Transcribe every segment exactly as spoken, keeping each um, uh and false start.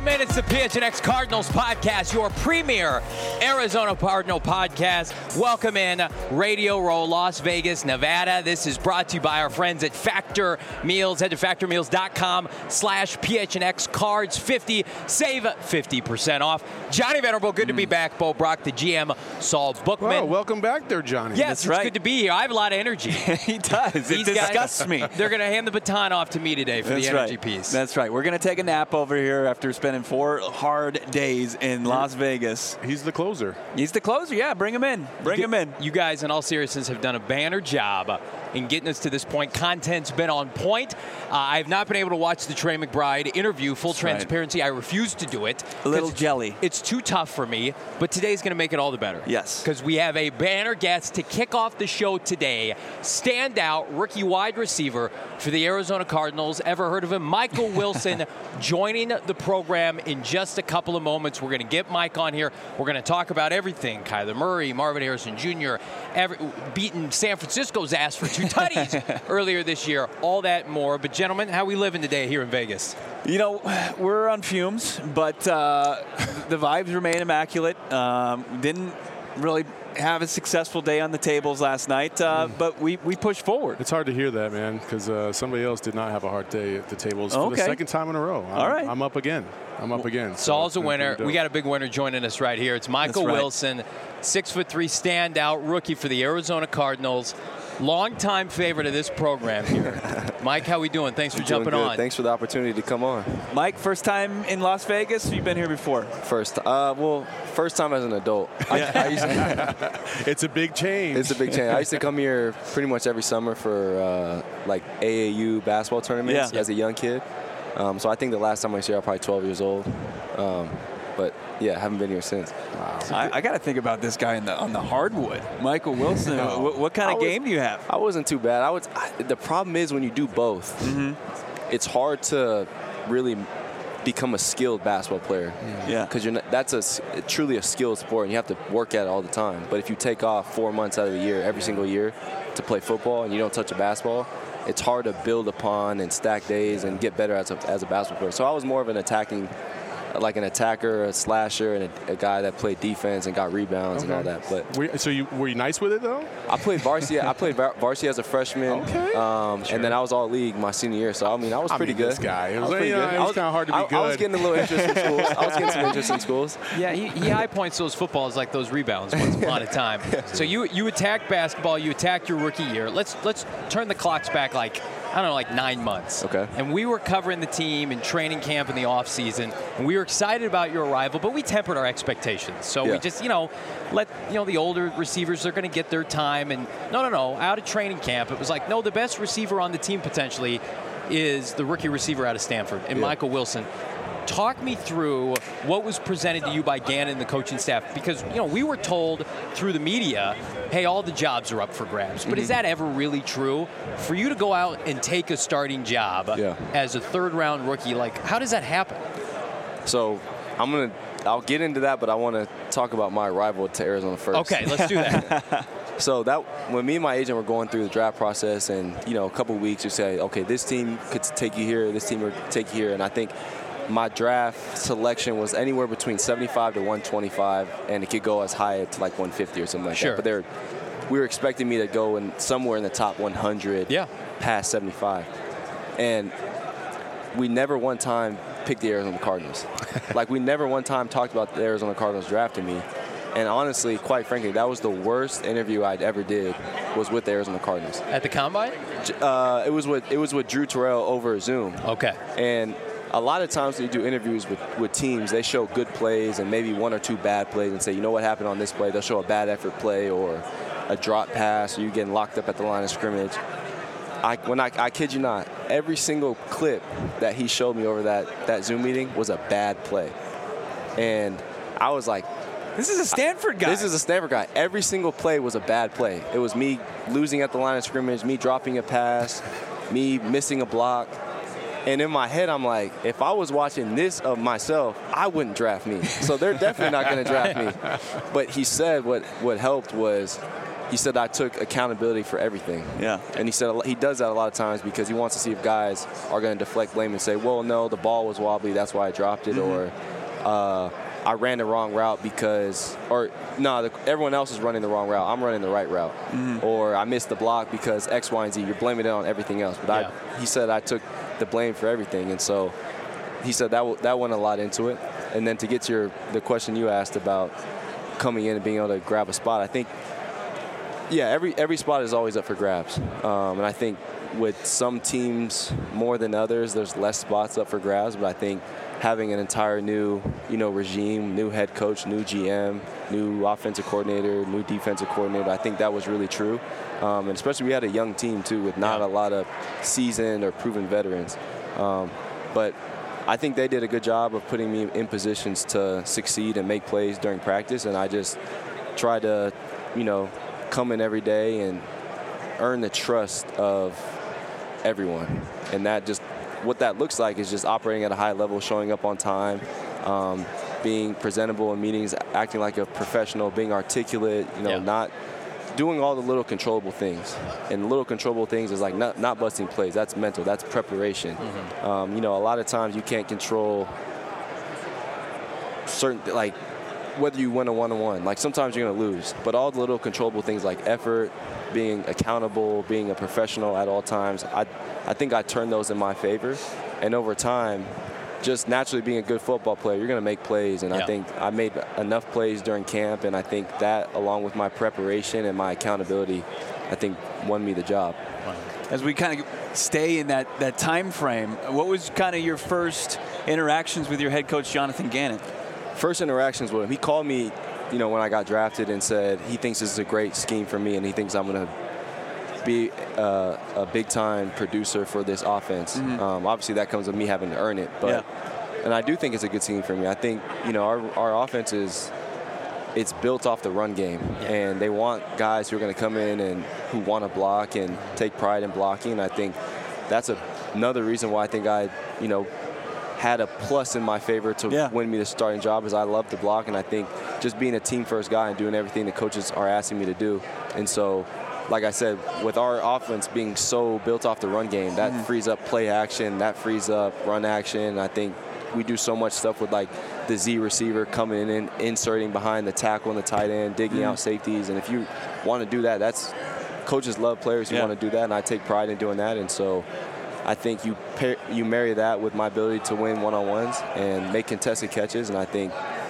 Welcome in. It's the P H N X Cardinals podcast, your premier Arizona Cardinal podcast. Welcome in Radio Row, Las Vegas, Nevada. This is brought to you by our friends at Factor Meals. Head to factor meals dot com slash P H N X Cards fifty. Save fifty percent off. Johnny Venerable, good mm. to be back. Bo Brock, the G M, Saul Bookman. Well, welcome back there, Johnny. Yes, That's it's right. good to be here. I have a lot of energy. He does. It These disgusts guys, me. They're going to hand the baton off to me today for That's the energy right. piece. That's right. We're going to take a nap over here after spending four hard days in Las Vegas. He's the closer. He's the closer. Yeah, bring him in. Bring you, him in. You guys, in all seriousness, have done a banner job in getting us to this point. Content's been on point. Uh, I have not been able to watch the Trey McBride interview. Full That's transparency, right. I refuse to do it. A little jelly. It's too tough for me, but today's going to make it all the better. Yes. Because we have a banner guest to kick off the show today. Standout rookie wide receiver for the Arizona Cardinals. Ever heard of him? Michael Wilson joining the program in just a couple of moments. We're going to get Mike on here. We're going to talk about everything. Kyler Murray, Marvin Harrison Junior, every, beating San Francisco's ass for two tutties earlier this year. All that and more. But gentlemen, how we living today here in Vegas? You know, we're on fumes, but uh, the vibes remain immaculate. Um, didn't really have a successful day on the tables last night, uh, mm. but we, we pushed forward. It's hard to hear that, man, because uh, somebody else did not have a hard day at the tables for okay. the second time in a row. I'm, All right. I'm up again. I'm up again. Saul's so a winner. We got a big winner joining us right here. It's Michael right. Wilson, six foot three standout rookie for the Arizona Cardinals. Longtime favorite of this program here. Mike, how we doing? Thanks for Doing jumping good. on. Thanks for the opportunity to come on. Mike, first time in Las Vegas? You've been here before? First, uh, well, first time as an adult. I, I used to, it's a big change. it's a big change. I used to come here pretty much every summer for uh, like A A U basketball tournaments yeah. as a young kid. Um, so I think the last time I was here, I was probably twelve years old. Um, but yeah, I haven't been here since. Wow. I, I got to think about this guy in the, on the hardwood. Michael Wilson, no. what, what kind of was, game do you have? I wasn't too bad. I was. I, the problem is when you do both, mm-hmm. it's hard to really become a skilled basketball player. Yeah. Because you're not, that's a truly a skilled sport, and you have to work at it all the time. But if you take off four months out of the year, every single year, to play football, and you don't touch a basketball, it's hard to build upon and stack days and get better as a, as a basketball player. So I was more of an attacking, like an attacker, a slasher, and a, a guy that played defense and got rebounds okay. and all that. But were, so you were you nice with it though? I played varsity. I played varsity as a freshman. Okay. Um, sure. And then I was all league my senior year. So I mean, I was I pretty mean, good. This guy, it was, I was, pretty you know, good. it was kind of hard to be I, good. I was getting a little interest in schools. I was getting some interest in schools. Yeah, he, he high points those footballs like those rebounds once upon a time. So you you attacked basketball, you attacked your rookie year. Let's let's turn the clocks back like, I don't know, like nine months. Okay. And we were covering the team in training camp in the offseason, and we were excited about your arrival, but we tempered our expectations. So yeah. we just, you know, let, you know, the older receivers, they're going to get their time. And no, no, no, out of training camp, it was like, no, the best receiver on the team potentially is the rookie receiver out of Stanford, and yeah. Michael Wilson. Talk me through what was presented to you by Gannon and the coaching staff, because, you know, we were told through the media, hey, all the jobs are up for grabs. But mm-hmm. is that ever really true? For you to go out and take a starting job yeah. as a third-round rookie, like, how does that happen? So I'm going to – I'll get into that, but I want to talk about my arrival to Arizona first. Okay, let's do that. So that when me and my agent were going through the draft process, and, you know, a couple of weeks, you say, okay, this team could take you here, this team would take you here. And I think – my draft selection was anywhere between seventy-five to one twenty-five, and it could go as high to like one fifty or something like sure. that. But they're, we were expecting me to go in somewhere in the top one hundred, yeah. past seventy-five. And we never one time picked the Arizona Cardinals. Like, we never one time talked about the Arizona Cardinals drafting me. And honestly, quite frankly, that was the worst interview I'd ever did, was with the Arizona Cardinals. At the Combine? Uh, it was with it was with Drew Terrell over Zoom. Okay. And a lot of times when you do interviews with, with teams, they show good plays and maybe one or two bad plays and say, you know what happened on this play? They'll show a bad effort play or a drop pass or you getting locked up at the line of scrimmage. I, when I, I kid you not, every single clip that he showed me over that, that Zoom meeting was a bad play. And I was like, this is a Stanford guy. This is a Stanford guy. Every single play was a bad play. It was me losing at the line of scrimmage, me dropping a pass, me missing a block. And in my head, I'm like, if I was watching this of myself, I wouldn't draft me. So they're definitely not going to draft me. But he said what, what helped was he said I took accountability for everything. Yeah. And he said he does that a lot of times because he wants to see if guys are going to deflect blame and say, well, no, the ball was wobbly, that's why I dropped it, mm-hmm. or uh, I ran the wrong route because, or no, the, everyone else is running the wrong route. I'm running the right route. Mm-hmm. Or I missed the block because X, Y, and Z. You're blaming it on everything else. But yeah. I, he said I took the blame for everything. And so he said that w- that went a lot into it. And then to get to your, the question you asked about coming in and being able to grab a spot, I think, yeah, every every spot is always up for grabs. Um, and I think with some teams more than others, there's less spots up for grabs. But I think having an entire new, you know, regime, new head coach, new G M, new offensive coordinator, new defensive coordinator, I think that was really true. Um, and especially we had a young team, too, with not a lot of seasoned or proven veterans. Um, but I think they did a good job of putting me in positions to succeed and make plays during practice. And I just tried to, you know, come in every day and earn the trust of everyone. And that just, what that looks like is just operating at a high level, showing up on time, um, being presentable in meetings, acting like a professional, being articulate, you know, yeah. not doing all the little controllable things. And little controllable things is like not, not busting plays. That's mental. That's preparation. Mm-hmm. Um, you know, a lot of times you can't control certain, like, whether you win a one-on-one. Like, sometimes you're going to lose. But all the little controllable things like effort, being accountable, being a professional at all times, I I think I turned those in my favor. And over time, just naturally being a good football player, you're going to make plays. And yeah. I think I made enough plays during camp, and I think that, along with my preparation and my accountability, I think won me the job. As we kind of stay in that, that time frame, what was kind of your first interactions with your head coach, Jonathan Gannon? First interactions with him, he called me, you know, when I got drafted and said he thinks this is a great scheme for me and he thinks I'm going to be uh, a big-time producer for this offense. Mm-hmm. Um, obviously, that comes with me having to earn it. But yeah. And I do think it's a good scheme for me. I think, you know, our, our offense is, it's built off the run game. Yeah. And they want guys who are going to come in and who want to block and take pride in blocking. And I think that's a, another reason why I think I, you know, had a plus in my favor to yeah. win me the starting job is I love to block, and I think just being a team-first guy and doing everything the coaches are asking me to do. And so, like I said, with our offense being so built off the run game, that mm-hmm. frees up play action, that frees up run action. I think we do so much stuff with, like, the Z receiver coming in and inserting behind the tackle and the tight end, digging mm-hmm. out safeties. And if you want to do that, that's coaches love players who yeah. want to do that, and I take pride in doing that. And so I think you pair, you marry that with my ability to win one-on-ones and make contested catches, and I think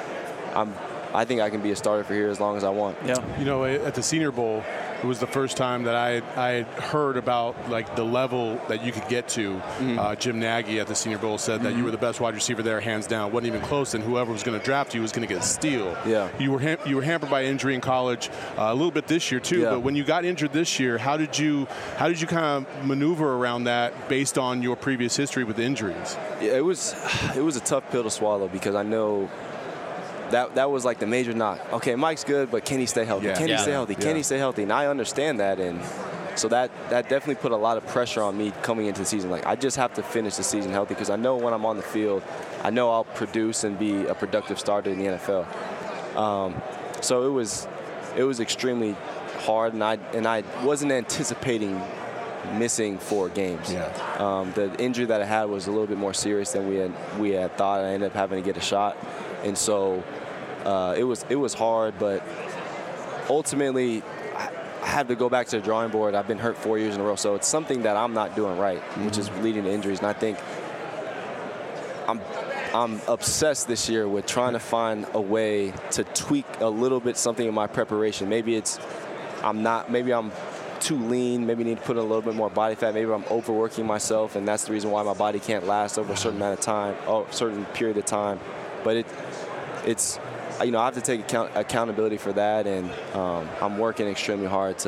I'm I think I can be a starter for here as long as I want. Yeah. You know, at the Senior Bowl, it was the first time that I had, I had heard about, like, the level that you could get to. Mm-hmm. Uh, Jim Nagy at the Senior Bowl said that mm-hmm. you were the best wide receiver there, hands down. Wasn't even close, and whoever was going to draft you was going to get a steal. Yeah. You were ham- you were hampered by injury in college, uh, a little bit this year too. Yeah. But when you got injured this year, how did you how did you kind of maneuver around that based on your previous history with injuries? Yeah, it was it was a tough pill to swallow because I know. That that was like the major knock. Okay, Mike's good, but can he stay healthy? Yeah. Can yeah. he stay healthy? Can yeah. he stay healthy? And I understand that, and so that that definitely put a lot of pressure on me coming into the season. Like, I just have to finish the season healthy because I know when I'm on the field, I know I'll produce and be a productive starter in the N F L. Um, so it was it was extremely hard, and I and I wasn't anticipating missing four games. Yeah. Um, the injury that I had was a little bit more serious than we had we had thought. I ended up having to get a shot. And so uh, it was it was hard, but ultimately I had to go back to the drawing board. I've been hurt four years in a row, so it's something that I'm not doing right, mm-hmm. which is leading to injuries. And I think I'm I'm obsessed this year with trying to find a way to tweak a little bit something in my preparation. Maybe it's I'm not. Maybe I'm too lean. Maybe need to put in a little bit more body fat. Maybe I'm overworking myself, and that's the reason why my body can't last over a certain amount of time, or a certain period of time. But it, it's, you know, I have to take account, accountability for that, and um, I'm working extremely hard to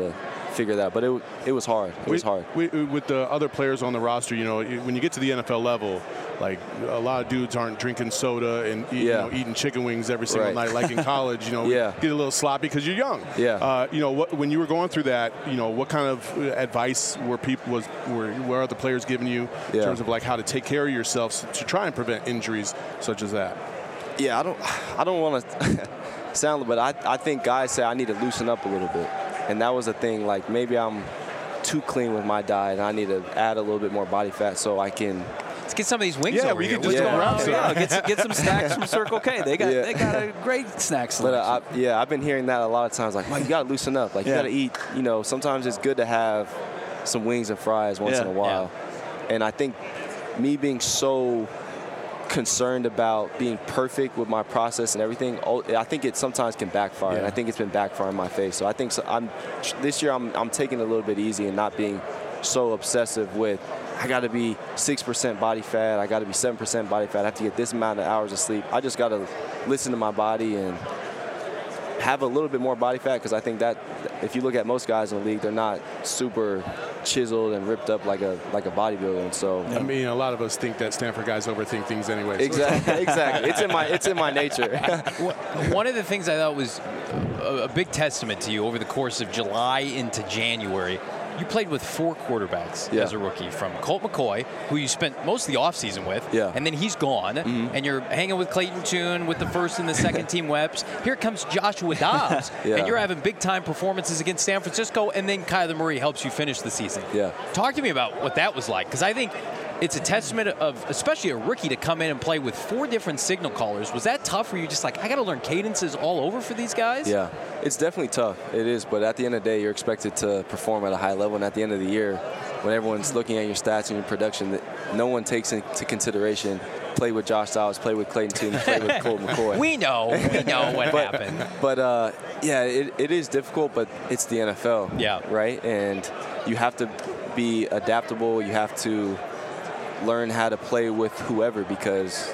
figure that out. But it it was hard. It was we, hard. We, with the other players on the roster, you know, when you get to the N F L level, like a lot of dudes aren't drinking soda and eat, yeah. you know, eating chicken wings every single right. night, like in college. You know, yeah. get a little sloppy because you're young. Yeah. Uh, you know, what, when you were going through that, you know, what kind of advice were people was were were other players giving you yeah. in terms of like how to take care of yourself to try and prevent injuries such as that? Yeah, I don't, I don't want to sound, but I, I think guys say I need to loosen up a little bit, and that was the thing. Like maybe I'm too clean with my diet, and I need to add a little bit more body fat so I can. Let's get some of these wings yeah, over we here. can just What's go going around. on? So- Yeah, get, some- get some snacks from Circle K. They got Yeah. they got a great snack But selection. uh, I, yeah, I've been hearing that a lot of times. Like, man, you got to loosen up. Like, Yeah. you got to eat. You know, sometimes it's good to have some wings and fries once Yeah. in a while. And I think me being so concerned about being perfect with my process and everything, oh, I think it sometimes can backfire. Yeah. And I think it's been backfiring in my face. So I think so I'm this year I'm, I'm taking it a little bit easy and not being so obsessive with I got to be six percent body fat, I got to be seven percent body fat, I have to get this amount of hours of sleep. I just got to listen to my body and have a little bit more body fat, because I think that if you look at most guys in the league, they're not super chiseled and ripped up like a like a bodybuilder. And so I mean, a lot of us think that Stanford guys overthink things anyway. So exactly, exactly. It's in my it's in my nature. One of the things I thought was a, a big testament to you over the course of July into January, you played with four quarterbacks Yeah. as a rookie, from Colt McCoy, who you spent most of the offseason with, Yeah. and then he's gone, Mm-hmm. and you're hanging with Clayton Tune with the first and the second team reps. Here comes Joshua Dobbs, Yeah. and you're having big-time performances against San Francisco, and then Kyler Murray helps you finish the season. Yeah. Talk to me about what that was like, because I think it's a testament of, especially a rookie, to come in and play with four different signal callers. Was that tough? Were you just like, I got to learn cadences all over for these guys? Yeah, it's definitely tough. It is, but at the end of the day, you're expected to perform at a high level. And at the end of the year, when everyone's looking at your stats and your production, that no one takes into consideration play with Josh Dobbs, play with Clayton Tune, play with Colt McCoy. We know. We know what But- happened. But uh, yeah, it, it is difficult, but it's the N F L. Yeah. Right? And you have to be adaptable. You have to learn how to play with whoever, because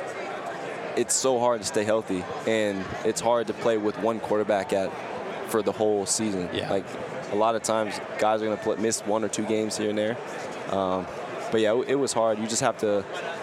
it's so hard to stay healthy, and it's hard to play with one quarterback at for the whole season. Yeah. Like a lot of times, guys are going to miss one or two games here and there. Um, but yeah, it, it was hard. You just have to.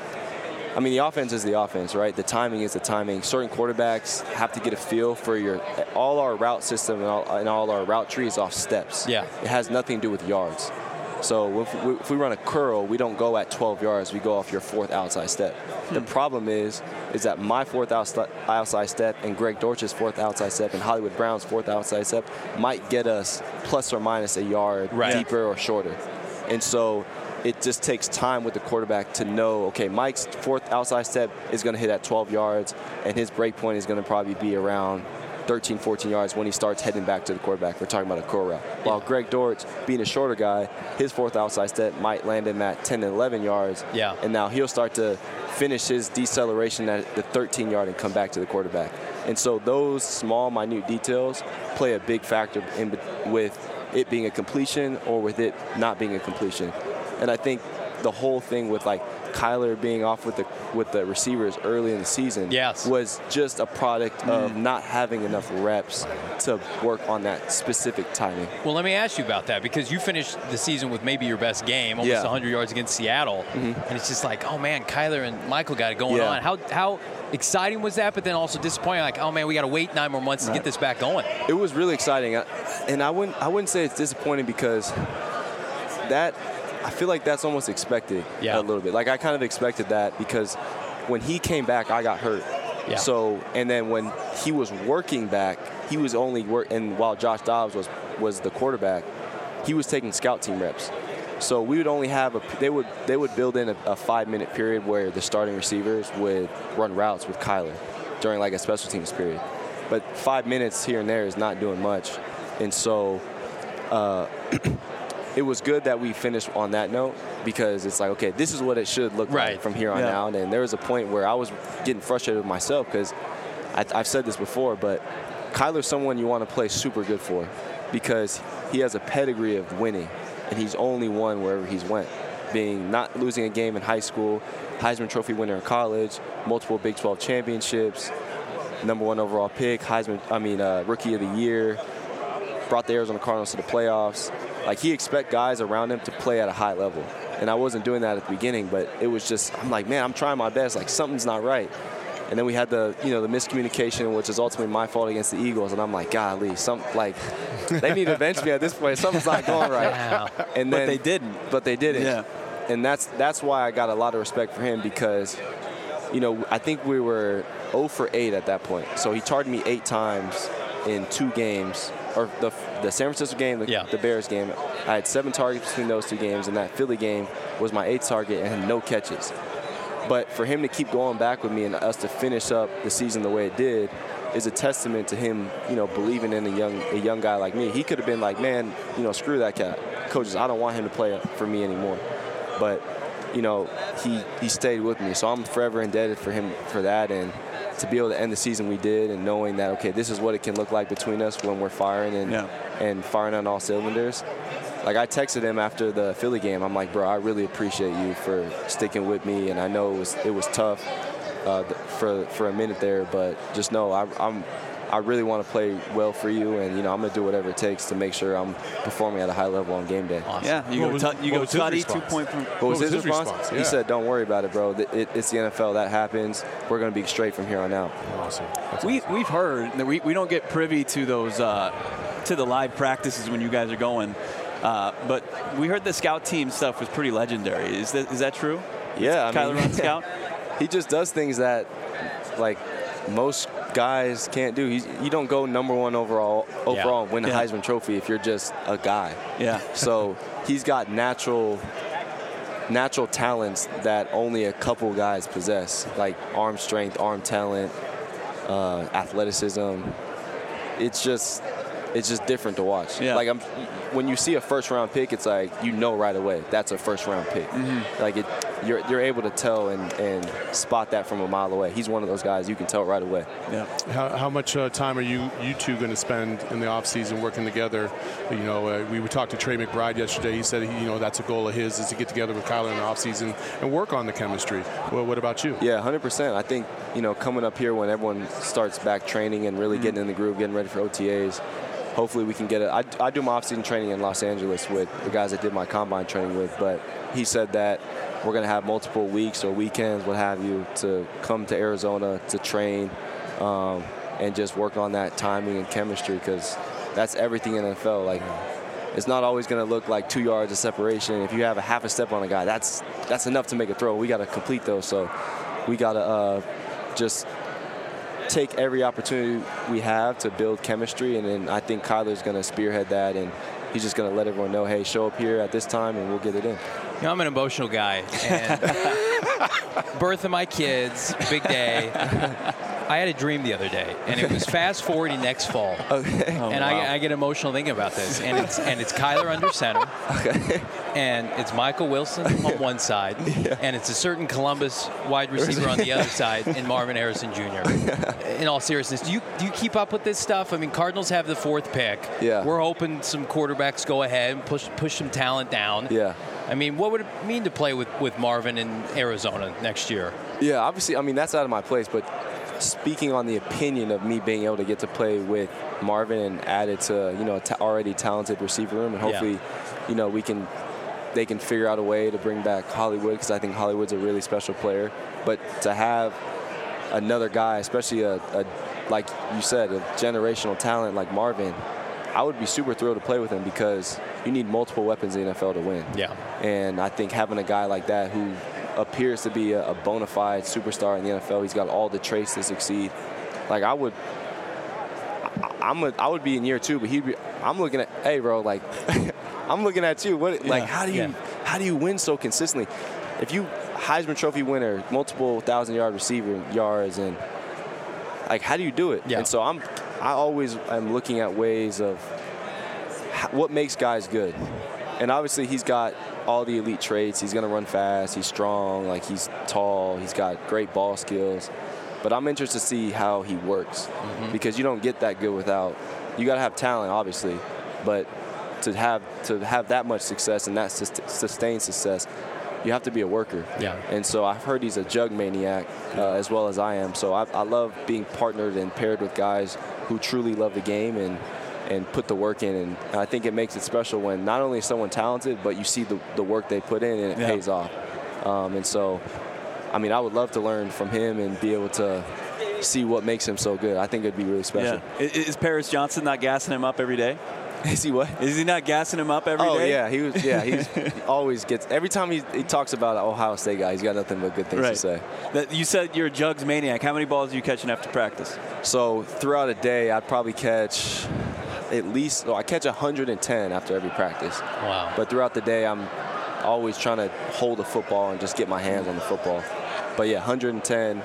I mean, the offense is the offense, right? The timing is the timing. Certain quarterbacks have to get a feel for your. All our route system and all, and all our route tree is off steps. Yeah. It has nothing to do with yards. So if we, if we run a curl, we don't go at twelve yards. We go off your fourth outside step. Hmm. The problem is, is that my fourth outside outside step and Greg Dortch's fourth outside step and Hollywood Brown's fourth outside step might get us plus or minus a yard Right. deeper or shorter. And so it just takes time with the quarterback to know, okay, Mike's fourth outside step is going to hit at twelve yards, and his break point is going to probably be around thirteen, fourteen yards when he starts heading back to the quarterback. We're talking about a curl route. While Greg Dortch, being a shorter guy, his fourth outside step might land him at ten and eleven yards. Yeah. And now he'll start to finish his deceleration at the thirteen yard and come back to the quarterback. And so those small, minute details play a big factor in with it being a completion or with it not being a completion. And I think the whole thing with like Kyler being off with the with the receivers early in the season Yes. was just a product of not having enough reps to work on that specific timing. Well, let me ask you about that, because you finished the season with maybe your best game, almost Yeah. one hundred yards against Seattle, and it's just like, oh man, Kyler and Michael got it going Yeah. on. How how exciting was that? But then also disappointing, like, oh man, we got to wait nine more months to get this back going. It was really exciting, I- and I wouldn't I wouldn't say it's disappointing, because that I feel like that's almost expected Yeah. a little bit. Like I kind of expected that, because when he came back, I got hurt. Yeah. So and then when he was working back, he was only work and while Josh Dobbs was was the quarterback, he was taking scout team reps. So we would only have a they would they would build in a, a five minute period where the starting receivers would run routes with Kyler during like a special teams period. But five minutes here and there is not doing much, and so. Uh, It was good that we finished on that note, because it's like, okay, this is what it should look Right. like from here on Yeah. out. And there was a point where I was getting frustrated with myself, because I've said this before, but Kyler's someone you want to play super good for, because he has a pedigree of winning, and he's only won wherever he's went, being not losing a game in high school, Heisman Trophy winner in college, multiple Big twelve championships, number one overall pick, Heisman, I mean, uh, Rookie of the Year, brought the Arizona Cardinals to the playoffs. Like, he expect guys around him to play at a high level. And I wasn't doing that at the beginning, but it was just, I'm like, man, I'm trying my best. Like, something's not right. And then we had the, you know, the miscommunication, which is ultimately my fault against the Eagles. And I'm like, golly, some, like, they need to bench me at this point. Something's not going right. Wow. And but then, they didn't. But they didn't. Yeah. And that's that's why I got a lot of respect for him, because, you know, I think we were oh for eight at that point. So he targeted me eight times in two games, or the the San Francisco game, the, yeah. the Bears game. I had seven targets between those two games, and that Philly game was my eighth target and no catches. But for him to keep going back with me and us to finish up the season the way it did is a testament to him, you know, believing in a young a young guy like me. He could have been like, man, you know, screw that cat. Coaches, I don't want him to play for me anymore. But, you know, he, he stayed with me. So I'm forever indebted for him for that. And to be able to end the season we did, and knowing that, okay, this is what it can look like between us when we're firing and, yeah. and firing on all cylinders. Like, I texted him after the Philly game. I'm like, bro, I really appreciate you for sticking with me. And I know it was, it was tough uh, for for a minute there, but just know I, I'm I really want to play well for you, and, you know, I'm going to do whatever it takes to make sure I'm performing at a high level on game day. Awesome. Yeah, you what go, was, t- you go Tutty, two-point. From, what, what was his, his response? response? Yeah. He said, don't worry about it, bro. It, it, it's the N F L. That happens. We're going to be straight from here on out. Awesome. That's we, awesome. We've heard that we, we don't get privy to those, uh, to the live practices when you guys are going, uh, but we heard the scout team stuff was pretty legendary. Is that, is that true? Yeah. I Kyler mean, on scout? He just does things that, like, most guys can't do. He's, you don't go number one overall overall yeah. win the yeah. Heisman Trophy if you're just a guy. Yeah. So he's got natural natural talents that only a couple guys possess, like arm strength, arm talent, uh, athleticism. It's just it's just different to watch. Yeah. Like, I'm when you see a first round pick, it's like, you know right away that's a first round pick. Mm-hmm. Like, it you're you're able to tell and, and spot that from a mile away. He's one of those guys you can tell right away. Yeah. How, how much uh, time are you you two going to spend in the off season working together? You know, uh, we talked to Trey McBride yesterday. He said, he, you know, that's a goal of his, is to get together with Kyler in the off season and work on the chemistry. Well, what about you? Yeah, one hundred percent. I think, you know, coming up here when everyone starts back training and really mm-hmm. getting in the groove, getting ready for O T As, hopefully we can get it. I, I do my off-season training in Los Angeles with the guys I did my combine training with, but he said that we're going to have multiple weeks or weekends, what have you, to come to Arizona to train um, and just work on that timing and chemistry, because that's everything in the N F L. Like, it's not always going to look like two yards of separation. If you have a half a step on a guy, that's that's enough to make a throw. We got to complete those, so we got to uh, just take every opportunity we have to build chemistry, and then I think Kyler's going to spearhead that, and he's just going to let everyone know, hey, show up here at this time and we'll get it in. You know, I'm an emotional guy, and birth of my kids, big day. I had a dream the other day, and it was fast forwarding next fall. Okay. Oh, and wow. I, I get emotional thinking about this, and it's and it's Kyler under center, okay. and it's Michael Wilson on one side, yeah. and it's a certain Columbus wide receiver on the other side, and Marvin Harrison Junior In all seriousness, do you do you keep up with this stuff? I mean, Cardinals have the fourth pick. Yeah. We're hoping some quarterbacks go ahead and push push some talent down. Yeah. I mean, what would it mean to play with, with Marvin in Arizona next year? Yeah, obviously, I mean, that's out of my place, but speaking on the opinion of me being able to get to play with Marvin and add it to, you know, a t- already talented receiver room, and hopefully, yeah. you know, we can, they can figure out a way to bring back Hollywood, because I think Hollywood's a really special player. But to have another guy, especially a, a, like you said, a generational talent like Marvin, I would be super thrilled to play with him, because you need multiple weapons in the N F L to win. Yeah. And I think having a guy like that who appears to be a, a bona fide superstar in the N F L, he's got all the traits to succeed. Like, I would, I, I'm a, I would be in year two, but he'd be. I'm looking at, hey, bro, like, I'm looking at you. What, yeah. like, how do you, yeah. how do you win so consistently? If you Heisman Trophy winner, multiple thousand yard receiver yards, and like, how do you do it? Yeah. And so I'm, I always am looking at ways of how, what makes guys good. And obviously he's got all the elite traits. He's going to run fast. He's strong. Like, he's tall. He's got great ball skills. But I'm interested to see how he works, mm-hmm. because you don't get that good without. You got to have talent, obviously, but to have to have that much success and that sustained success, you have to be a worker. Yeah. And so I've heard he's a jug maniac uh, as well as I am. So I, I love being partnered and paired with guys who truly love the game and and put the work in. And I think it makes it special when not only is someone talented, but you see the, the work they put in and it yeah. pays off. Um, and so, I mean, I would love to learn from him and be able to see what makes him so good. I think it'd be really special. Yeah. Is Paris Johnson not gassing him up every day? Is he what? Is he not gassing him up every oh, day? yeah, he was. Yeah, he's, he always gets. Every time he, he talks about an Ohio State guy, he's got nothing but good things right. to say. That, you said you're a jugs maniac. How many balls are you catching after practice? So throughout a day, I'd probably catch at least. Well, I catch one hundred ten after every practice. Wow. But throughout the day, I'm always trying to hold a football and just get my hands on the football. But yeah, one hundred ten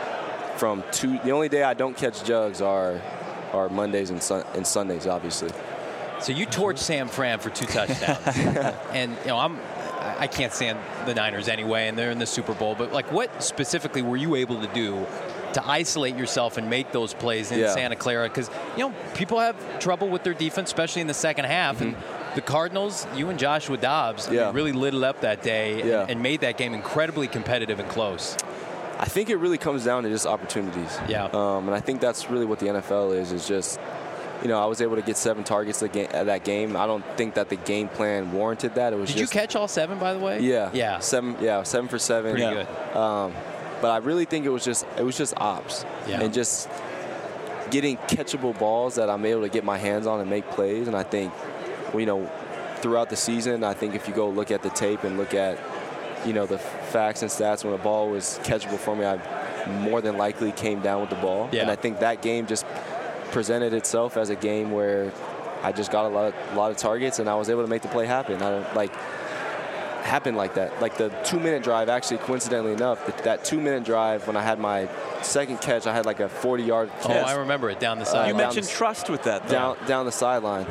from two. The only day I don't catch jugs are are Mondays and, sun, and Sundays, obviously. So you torched Sam Fran for two touchdowns, and you know I'm I can't stand the Niners anyway, and they're in the Super Bowl. But like, what specifically were you able to do to isolate yourself and make those plays in yeah. Santa Clara? Because you know people have trouble with their defense, especially in the second half, mm-hmm. and the Cardinals, you and Joshua Dobbs, yeah. I mean, really lit it up that day yeah. and, and made that game incredibly competitive and close. I think it really comes down to just opportunities. Yeah. Um, and I think that's really what the N F L is, is just, you know, I was able to get seven targets at that game. I don't think that the game plan warranted that. It was Did just, you catch all seven, by the way? Yeah. Yeah. Seven. Yeah, seven for seven. Pretty yeah. good. Um, but I really think it was just it was just ops yeah. and just getting catchable balls that I'm able to get my hands on and make plays. And I think, you know, throughout the season, I think if you go look at the tape and look at, you know, the facts and stats when a ball was catchable for me, I more than likely came down with the ball. Yeah. And I think that game just presented itself as a game where I just got a lot, of, a lot of targets and I was able to make the play happen. I don't like happen like that. Like the two-minute drive, actually, coincidentally enough, that, that two-minute drive when I had my second catch, I had like a forty-yard Oh, catch. I remember it down the Uh, side. You down mentioned the, trust with that, though. down down the sideline.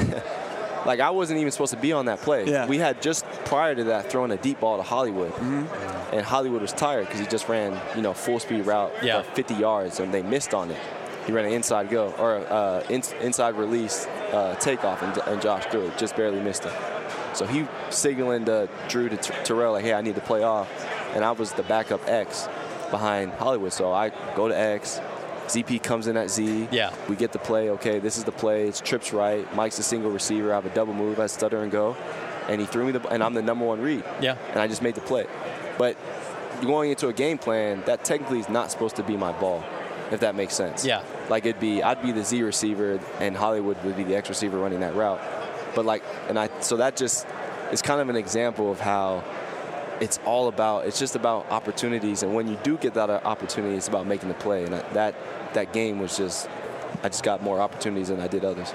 Like, I wasn't even supposed to be on that play. Yeah. We had just prior to that thrown a deep ball to Hollywood. Mm-hmm. And Hollywood was tired because he just ran, you know, full speed route Yeah. for fifty yards, and they missed on it. He ran an inside go, or uh, in, inside release uh, takeoff, and, and Josh threw it, just barely missed it. So he signaling to Drew to Terrell, like, hey, I need to play off. And I was the backup X behind Hollywood. So I go to X. Z P comes in at Z. Yeah. We get the play. Okay, this is the play. It's trips right. Mike's a single receiver. I have a double move. I stutter and go. And he threw me the, and I'm the number one read. Yeah. And I just made the play. But going into a game plan, that technically is not supposed to be my ball, if that makes sense. Yeah. Like it'd be, I'd be the Z receiver, and Hollywood would be the X receiver running that route. But like, and I, so that just is kind of an example of how it's all about, it's just about opportunities. And when you do get that opportunity, it's about making the play. And that, that game was just, I just got more opportunities than I did others.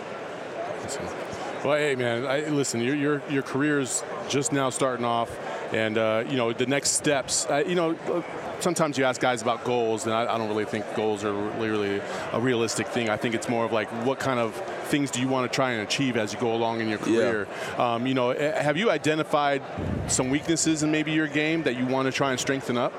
Well, hey, man, I, listen, your, your, your career's just now starting off. And, uh, you know, the next steps, uh, you know, sometimes you ask guys about goals, and I, I don't really think goals are really, really a realistic thing. I think it's more of like, what kind of things do you want to try and achieve as you go along in your career? Yeah. Um, you know, have you identified some weaknesses in maybe your game that you want to try and strengthen up?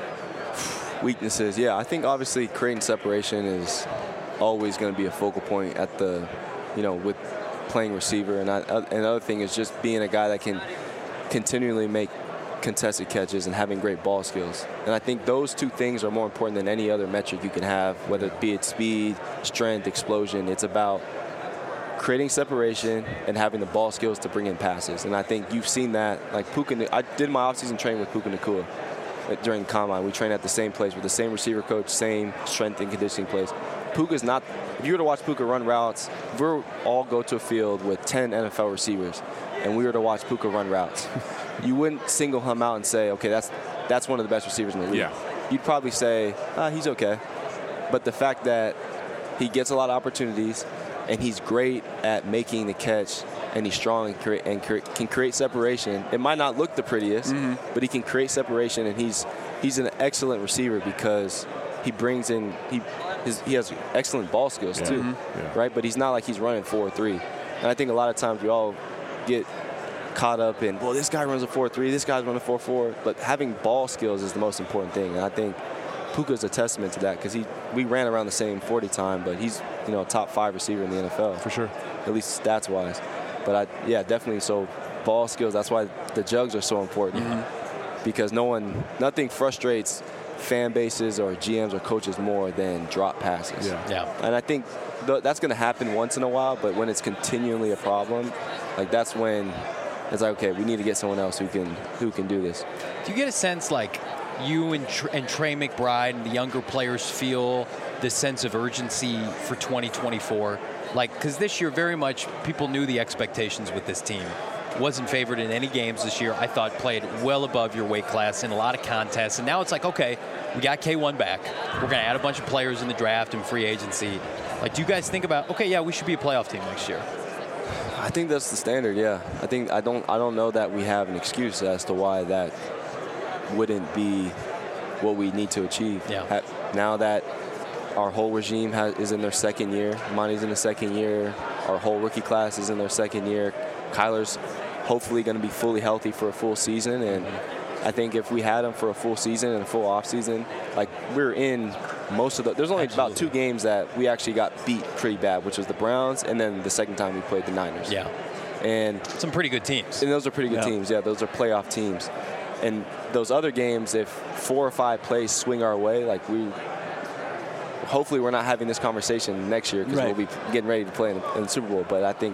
Weaknesses, yeah. I think obviously creating separation is always going to be a focal point at the, you know, with playing receiver. And I, another thing is just being a guy that can continually make contested catches and having great ball skills. And I think those two things are more important than any other metric you can have, whether it be it speed, strength, explosion. It's about creating separation and having the ball skills to bring in passes. And I think you've seen that. Like Puka, I did my offseason training with Puka Nacua during the combine. We trained at the same place with the same receiver coach, same strength and conditioning place. Puka's not, if you were to watch Puka run routes, if we all go to a field with ten N F L receivers and we were to watch Puka run routes, you wouldn't single him out and say, okay, that's that's one of the best receivers in the league. Yeah. You'd probably say, ah, he's okay. But the fact that he gets a lot of opportunities and he's great at making the catch and he's strong and, cre- and cre- can create separation. It might not look the prettiest, mm-hmm. but he can create separation, and he's he's an excellent receiver because he brings in he his, he has excellent ball skills yeah. too, mm-hmm. yeah. right? But he's not like he's running four three. And I think a lot of times we all get caught up in, well, this guy runs a four three, this guy's running a four four. But having ball skills is the most important thing, and I think Puka's a testament to that because he we ran around the same forty time, but he's you know a top five receiver in the N F L for sure, at least stats wise. But I yeah definitely so ball skills. That's why the jugs are so important mm-hmm. because no one nothing frustrates fan bases or G Ms or coaches more than drop passes. Yeah. Yeah. And I think th- that's going to happen once in a while, but when it's continually a problem, like that's when it's like, okay, we need to get someone else who can who can do this. Do you get a sense like you and, Tr- and Trey McBride and the younger players feel this sense of urgency for twenty twenty-four? Like, because this year very much people knew the expectations with this team. Wasn't favored in any games this year. I thought played well above your weight class in a lot of contests. And now it's like, okay, we got K one back. We're going to add a bunch of players in the draft and free agency. Like, do you guys think about, okay, yeah, we should be a playoff team next year? I think that's the standard, yeah. I think I don't I don't know that we have an excuse as to why that wouldn't be what we need to achieve. Yeah. Now that our whole regime has, is in their second year, Monty's in the second year, our whole rookie class is in their second year. Kyler's hopefully going to be fully healthy for a full season, and I think if we had him for a full season and a full off season, like we're in most of the. There's only Absolutely. about two games that we actually got beat pretty bad, which was the Browns, and then the second time we played the Niners. Yeah. And Some pretty good teams. and those are pretty good Yeah. teams. Yeah, those are playoff teams. And those other games, if four or five plays swing our way, like we. Hopefully, we're not having this conversation next year because Right. we'll be getting ready to play in, in the Super Bowl. But I think.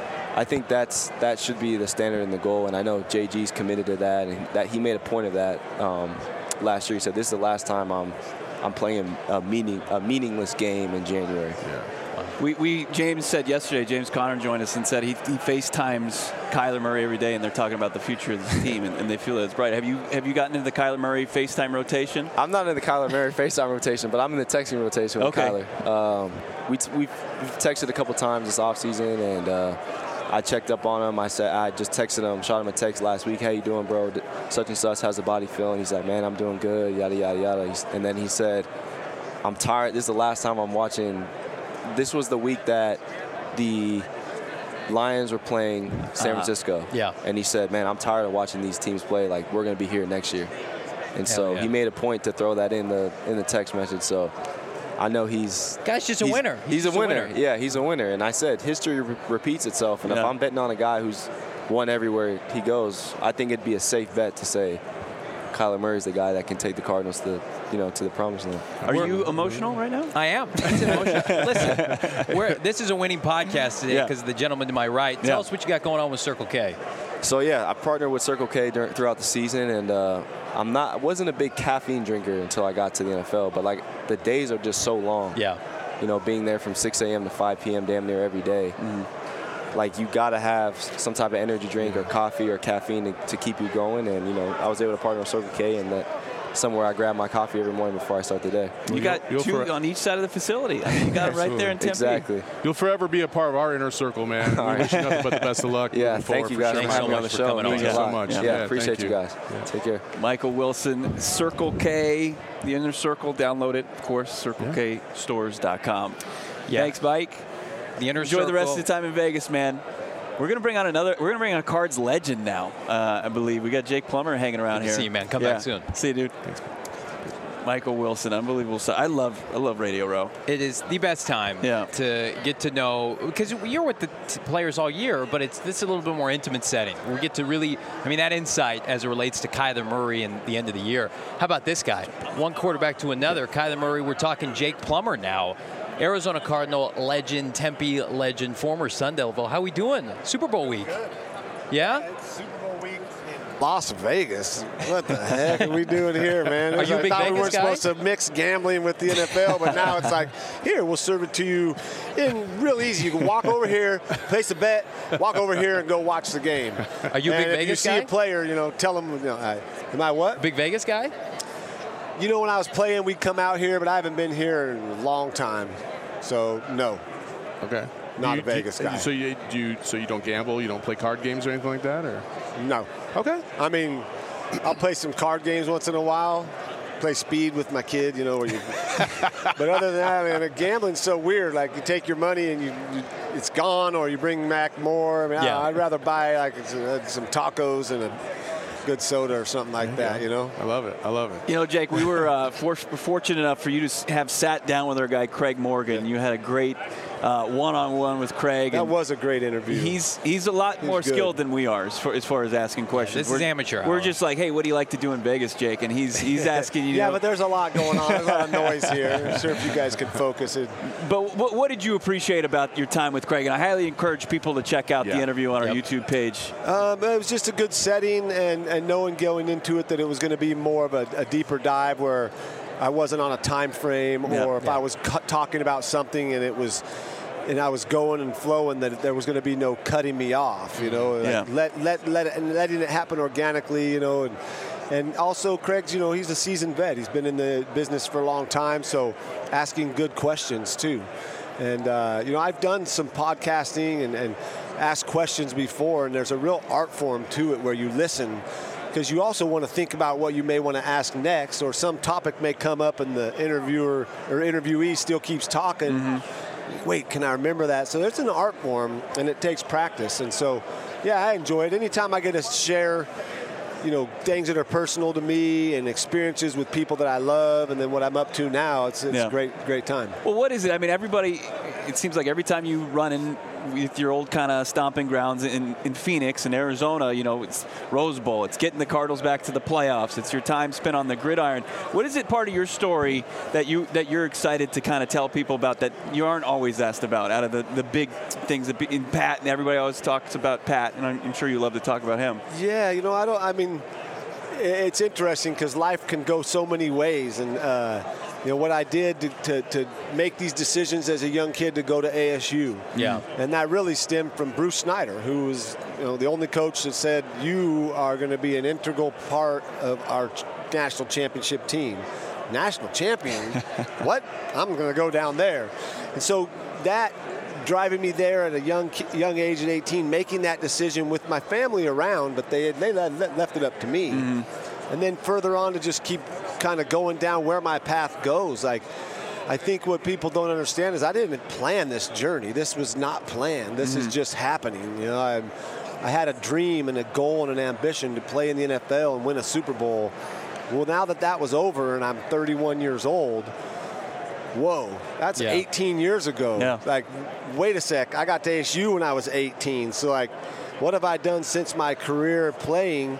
I think that's that should be the standard and the goal, and I know J G's committed to that, and that he made a point of that um, last year. He said, "This is the last time I'm I'm playing a meaning a meaningless game in January." Yeah. We, we James said yesterday, James Conner joined us and said he, he FaceTimes Kyler Murray every day, and they're talking about the future of this team, and, and they feel that it's bright. Have you have you gotten into the Kyler Murray FaceTime rotation? I'm not in the Kyler Murray FaceTime rotation, but I'm in the texting rotation with Okay. Kyler. Um, we t- we've, we've texted a couple times this offseason, and uh, I checked up on him. I said I just texted him, shot him a text last week. How you doing, bro? D- Such and such. How's the body feeling? He's like, man, I'm doing good. Yada yada yada. He's, and then he said, I'm tired. This is the last time I'm watching. This was the week that the Lions were playing San Uh-huh. Francisco. Yeah. And he said, man, I'm tired of watching these teams play. Like, we're going to be here next year. And Hell so yeah. he made a point to throw that in the in the text message. So I know he's Guy's just a he's- winner. He's, just a, winner. Yeah, he's a winner. And I said history re- repeats itself. And if Yeah. I'm betting on a guy who's won everywhere he goes, I think it'd be a safe bet to say Kyler Murray's the guy that can take the Cardinals to you know to the promised land. Are We're- you emotional right now? I am. It's an emotion. Listen, we're, this is a winning podcast today Yeah. because of the gentleman to my right. Tell Yeah. us what you got going on with Circle K. So yeah, I partnered with Circle K during, throughout the season, and uh, I'm not I wasn't a big caffeine drinker until I got to the N F L. But like the days are just so long. Yeah. You know, being there from six a.m. to five p.m. damn near every day. Like you gotta have some type of energy drink or coffee or caffeine to, to keep you going. And you know, I was able to partner with Circle K, and that somewhere I grab my coffee every morning before I start the day. You got you'll two for- on each side of the facility. I mean, you got it right there in Tempe. Exactly. You'll forever be a part of our inner circle, man. All We right. wish you nothing but the best of luck. Yeah, moving thank forward you for guys sure. for Thanks having so me on the much for show. coming It on. means Thank a you so lot. much. Yeah, Yeah, appreciate thank you you. guys. Take care. Michael Wilson, Circle K, the Inner Circle. Download it, of course, circle k stores dot com. Yeah. Thanks, Mike. The inner Enjoy the rest of circle. the time in Vegas, man. We're gonna bring on another. We're gonna bring on a Cards legend now. Uh, I believe we got Jake Plummer hanging around Good to here. see you, man. Come Yeah. back soon. See you, dude. Michael Wilson, unbelievable stuff. I love, I love Radio Row. It is the best time Yeah. to get to know, because you're with the t- players all year, but it's this is a little bit more intimate setting. We get to really, I mean, that insight as it relates to Kyler Murray and the end of the year. How about this guy? One quarterback to another. Kyler Murray, we're talking Jake Plummer now. Arizona Cardinal legend, Tempe legend, former Sun Devil. How we doing? Super Bowl week. Yeah? It's Super Bowl week in Las Vegas. What the heck are we doing here, man? Are you a I big thought we Vegas weren't guy? supposed to mix gambling with the N F L, but now it's like, here, we'll serve it to you in real easy. You can walk over here, place a bet, walk over here, and go watch the game. Are you a and big if Vegas you see guy? a player, you know, tell them, you know, I, am I what? Big Vegas guy? You know, when I was playing, we'd come out here, but I haven't been here in a long time. So, no. Okay. Not You- a Vegas you- guy. So you do you, so you don't gamble, you don't play card games or anything like that, or? No. Okay. I mean, I'll play some card games once in a while. Play speed with my kid, you know. Where you, but other than that, man, gambling's so weird. Like you take your money and you, you it's gone, or you bring back more. I mean, Yeah. I, I'd rather buy like some, some tacos and a good soda or something like that, you know. I love it. I love it. You know, Jake, we were uh, for, fortunate enough for you to s- have sat down with our guy Craig Morgan. You had a great uh, one-on-one with Craig. That was a great interview. He's he's a lot He's more good. skilled than we are as far as, far as asking questions. this we're, is amateur We're hour. just like, hey, what do you like to do in Vegas, Jake? And he's he's asking you. yeah, know, but there's a lot going on. There's a lot of noise here. I'm sure if you guys could focus it. But what, what did you appreciate about your time with Craig? And I highly encourage people to check out Yeah. the interview on our Yep. YouTube page. Um, it was just a good setting, and, and knowing going into it that it was going to be more of a, a deeper dive where I wasn't on a time frame, Yeah. or if Yeah. I was cu- talking about something and it was, and I was going and flowing, that there was going to be no cutting me off. You know, like Yeah. let let let it, and letting it happen organically. You know, and and also Craig's, you know, he's a seasoned vet. He's been in the business for a long time, so asking good questions too. And uh, you know, I've done some podcasting and, and asked questions before, and there's a real art form to it where you listen, because you also want to think about what you may want to ask next, or some topic may come up and the interviewer or interviewee still keeps talking. Mm-hmm. Wait, can I remember that? So there's an art form, and it takes practice. And so, yeah, I enjoy it. Anytime I get to share, you know, things that are personal to me and experiences with people that I love, and then what I'm up to now, it's, it's Yeah. a great, great time. Well, what is it? I mean, everybody, it seems like every time you run in with your old kind of stomping grounds in, in Phoenix and Arizona, you know, it's Rose Bowl. It's getting the Cardinals back to the playoffs. It's your time spent on the gridiron. What is it part of your story that, you, that you're excited to kind of tell people about that you aren't always asked about out of the, the big things that be, in Pat, and everybody always talks about Pat, and I'm, I'm sure you love to talk about him. Yeah, you know, I don't, I mean, it's interesting because life can go so many ways. And, uh, you know, what I did to, to, to make these decisions as a young kid to go to A S U. Yeah. And that really stemmed from Bruce Snyder, who was, you know, the only coach that said, you are going to be an integral part of our national championship team. National champion? What? I'm going to go down there. And so that driving me there at a young young age at eighteen, making that decision with my family around, but they they left it up to me. Mm-hmm. And then further on to just keep kind of going down where my path goes. Like, I think what people don't understand is I didn't plan this journey. This was not planned. This mm-hmm. is just happening. You know, I I had a dream and a goal and an ambition to play in the N F L and win a Super Bowl. Well, now that that was over and I'm thirty-one years old, whoa, that's yeah. eighteen years ago. Yeah. Like, wait a sec, I got to A S U when I was eighteen. So, like, what have I done since my career playing?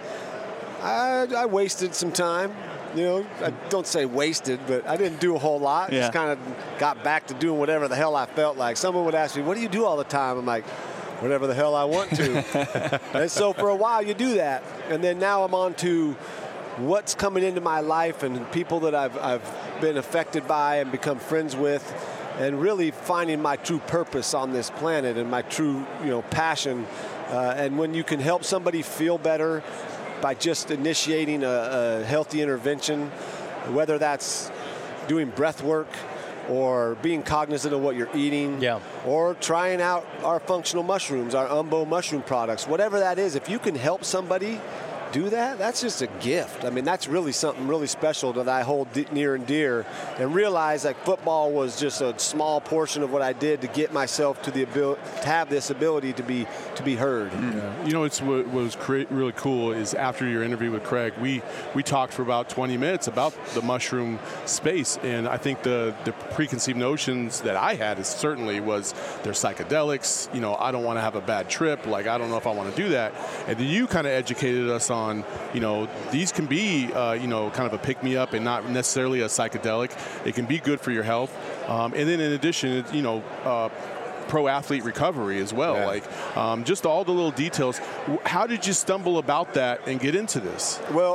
I, I wasted some time. You know, I don't say wasted, but I didn't do a whole lot. Yeah. Just kind of got back to doing whatever the hell I felt like. Someone would ask me, what do you do all the time? I'm like, whatever the hell I want to. And so for a while you do that. And then now I'm on to what's coming into my life and people that I've, I've been affected by and become friends with, and really finding my true purpose on this planet and my true, you know, passion. Uh, and when you can help somebody feel better by just initiating a, a healthy intervention, whether that's doing breath work or being cognizant of what you're eating, yeah. or trying out our functional mushrooms, our Umbo mushroom products, whatever that is, if you can help somebody do that, that's just a gift. I mean, that's really something really special that I hold de- near and dear, and realize that football was just a small portion of what I did to get myself to the ability to have this ability to be to be heard. Yeah. You know, it's what, what was cre- really cool is after your interview with Craig, we we talked for about twenty minutes about the mushroom space, and I think the the preconceived notions that I had is certainly was they're psychedelics. You know, I don't want to have a bad trip. Like, I don't know if I want to do that. And then you kind of educated us on. On, you know, these can be, uh, you know, kind of a pick-me-up and not necessarily a psychedelic. It can be good for your health. Um, and then in addition, you know, uh, pro athlete recovery as well. Yeah. Like, um, just all the little details. How did you stumble about that and get into this? Well,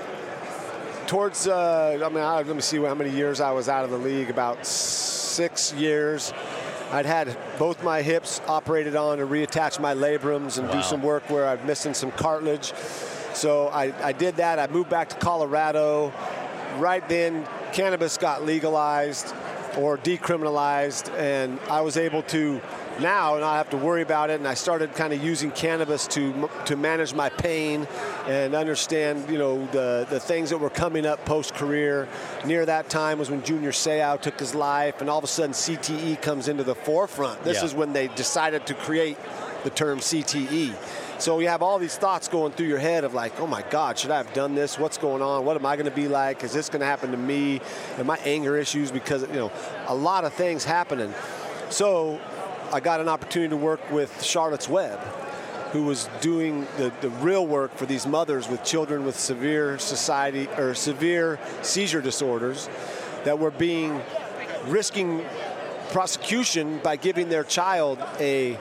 towards, uh, I mean, I, let me see how many years I was out of the league, about six years. I'd had both my hips operated on to reattach my labrums and wow. do some work where I'm missing some cartilage. So I, I did that. I moved back to Colorado. Right then, cannabis got legalized or decriminalized, and I was able to now not have to worry about it. And I started kind of using cannabis to to manage my pain and understand, you know, the the things that were coming up post-career. Near that time was when Junior Seau took his life, and all of a sudden C T E comes into the forefront. This yeah. is when they decided to create the term C T E. So you have all these thoughts going through your head of like, oh my God, should I have done this? What's going on? What am I going to be like? Is this going to happen to me? And my anger issues, because, you know, a lot of things happening. So I got an opportunity to work with Charlotte's Web, who was doing the, the real work for these mothers with children with severe society or severe seizure disorders that were being risking prosecution by giving their child a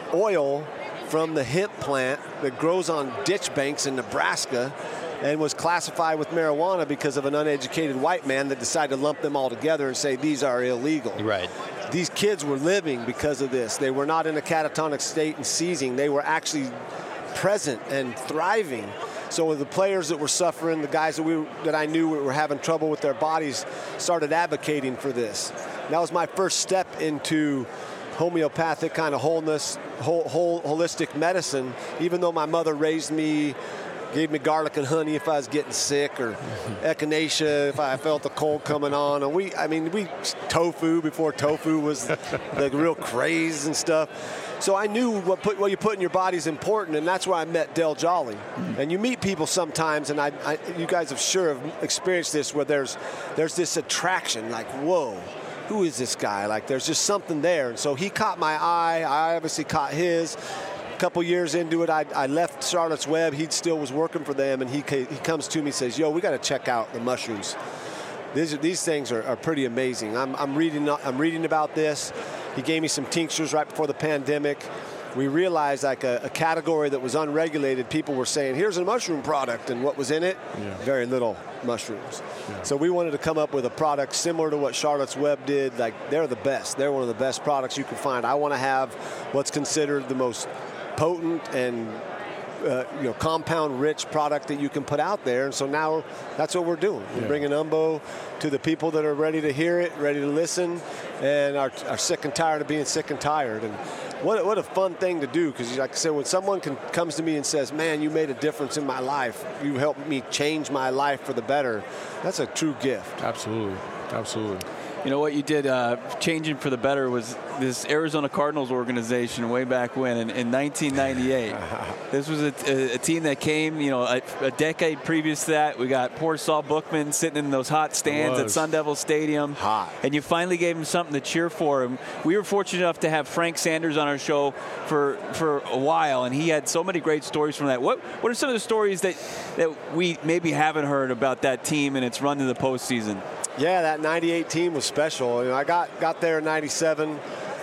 oil from the hemp plant that grows on ditch banks in Nebraska and was classified with marijuana because of an uneducated white man that decided to lump them all together and say these are illegal. Right. These kids were living because of this. They were not in a catatonic state and seizing. They were actually present and thriving. So the players that were suffering, the guys that we that I knew were having trouble with their bodies, started advocating for this. And that was my first step into homeopathic kind of wholeness, whole, whole holistic medicine. Even though my mother raised me, gave me garlic and honey if I was getting sick, or echinacea if I felt the cold coming on. And we, I mean, we tofu before tofu was the real craze and stuff. So I knew what put what you put in your body is important, and that's where I met Del Jolly. And you meet people sometimes, and I, I, you guys have sure have experienced this, where there's there's this attraction, like, whoa, who is this guy? Like, there's just something there. And so he caught my eye. I obviously caught his. A couple years into it, I, I left Charlotte's Web. He still was working for them, and he he comes to me and says, yo, we got to check out the mushrooms. These, these things are, are pretty amazing. I'm, I'm reading I'm reading about this. He gave me some tinctures right before the pandemic. We realized, like, a, a category that was unregulated, people were saying, here's a mushroom product, and what was in it? Yeah. Very little mushrooms. Yeah. So we wanted to come up with a product similar to what Charlotte's Web did. Like, they're the best. They're one of the best products you can find. I want to have what's considered the most potent and Uh, you know, compound-rich product that you can put out there. And so now that's what we're doing. We're yeah. bringing Umbo to the people that are ready to hear it, ready to listen, and are, are sick and tired of being sick and tired. And what, what a fun thing to do, because like I said, when someone can, comes to me and says, man, you made a difference in my life, you helped me change my life for the better, that's a true gift. Absolutely. Absolutely. You know what you did, uh, changing for the better, was this Arizona Cardinals organization way back when in, in nineteen ninety-eight. This was a, a, a team that came, you know, a, a decade previous to that. We got poor Saul Bookman sitting in those hot stands at Sun Devil Stadium. Hot. And you finally gave him something to cheer for. And we were fortunate enough to have Frank Sanders on our show for for a while, and he had so many great stories from that. What what are some of the stories that, that we maybe haven't heard about that team and its run to the postseason? Yeah, that ninety-eight team was special. You know, I got got there in ninety-seven.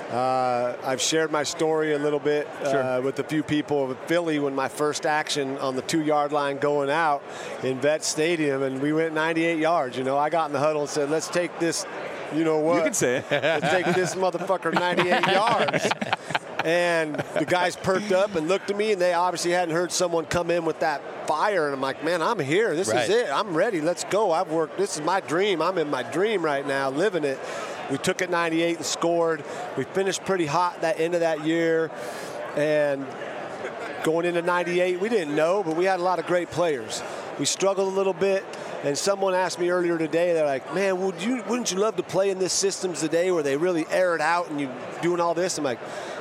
Uh, I've shared my story a little bit sure. uh, with a few people of Philly when my first action on the two-yard line going out in Vet Stadium, and we went ninety-eight yards. You know, I got in the huddle and said, let's take this, you know what? You can say it. Let's take this motherfucker ninety-eight yards. And the guys perked up and looked at me, and they obviously hadn't heard someone come in with that fire. And I'm like, man, I'm here. This right. is it. I'm ready. Let's go. I've worked. This is my dream. I'm in my dream right now, living it. We took it ninety-eight and scored. We finished pretty hot that end of that year. And going into ninety-eight, we didn't know, but we had a lot of great players. We struggled a little bit. And someone asked me earlier today, they're like, man, would you, wouldn't you love to play in this systems today where they really air it out and you doing all this? I'm like,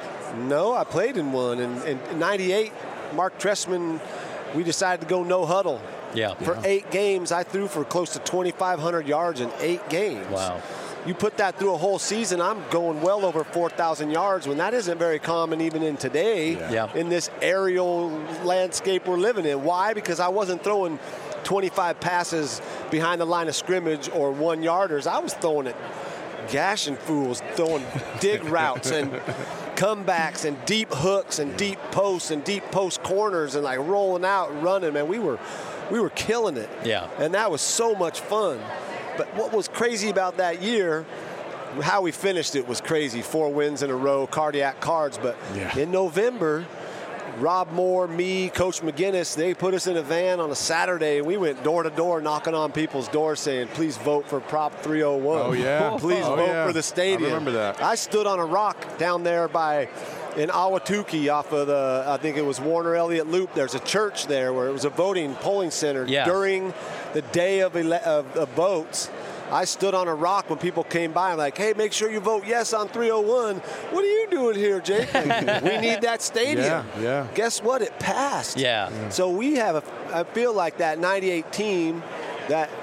no, I played in one. And in ninety-eight, Mark Trestman, we decided to go no huddle. Yeah. For yeah. eight games, I threw for close to twenty-five hundred yards in eight games. Wow. You put that through a whole season, I'm going well over four thousand yards, when that isn't very common even in today, Yeah. Yeah. in this aerial landscape we're living in. Why? Because I wasn't throwing twenty-five passes behind the line of scrimmage or one-yarders. I was throwing it, gashing fools, throwing dig routes and comebacks and deep hooks and deep posts and deep post corners and like rolling out and running. Man, we were we were killing it. Yeah. And that was so much fun. But what was crazy about that year, how we finished it was crazy. Four wins in a row, cardiac cards. But yeah. in November, Rob Moore, me, Coach McGinnis, they put us in a van on a Saturday, and we went door to door knocking on people's doors saying, please vote for Prop three oh one. Oh, yeah. Please oh, vote yeah. for the stadium. I remember that. I stood on a rock down there by in Ahwatukee off of the, I think it was Warner Elliott Loop. There's a church there where it was a voting polling center Yeah. during the day of, ele- of, of votes. I stood on a rock when people came by. I'm like, hey, make sure you vote yes on three oh one. What are you doing here, Jake? We need that stadium. Yeah, yeah. Guess what? It passed. Yeah. yeah. So we have, a, I feel like that ninety-eight team, that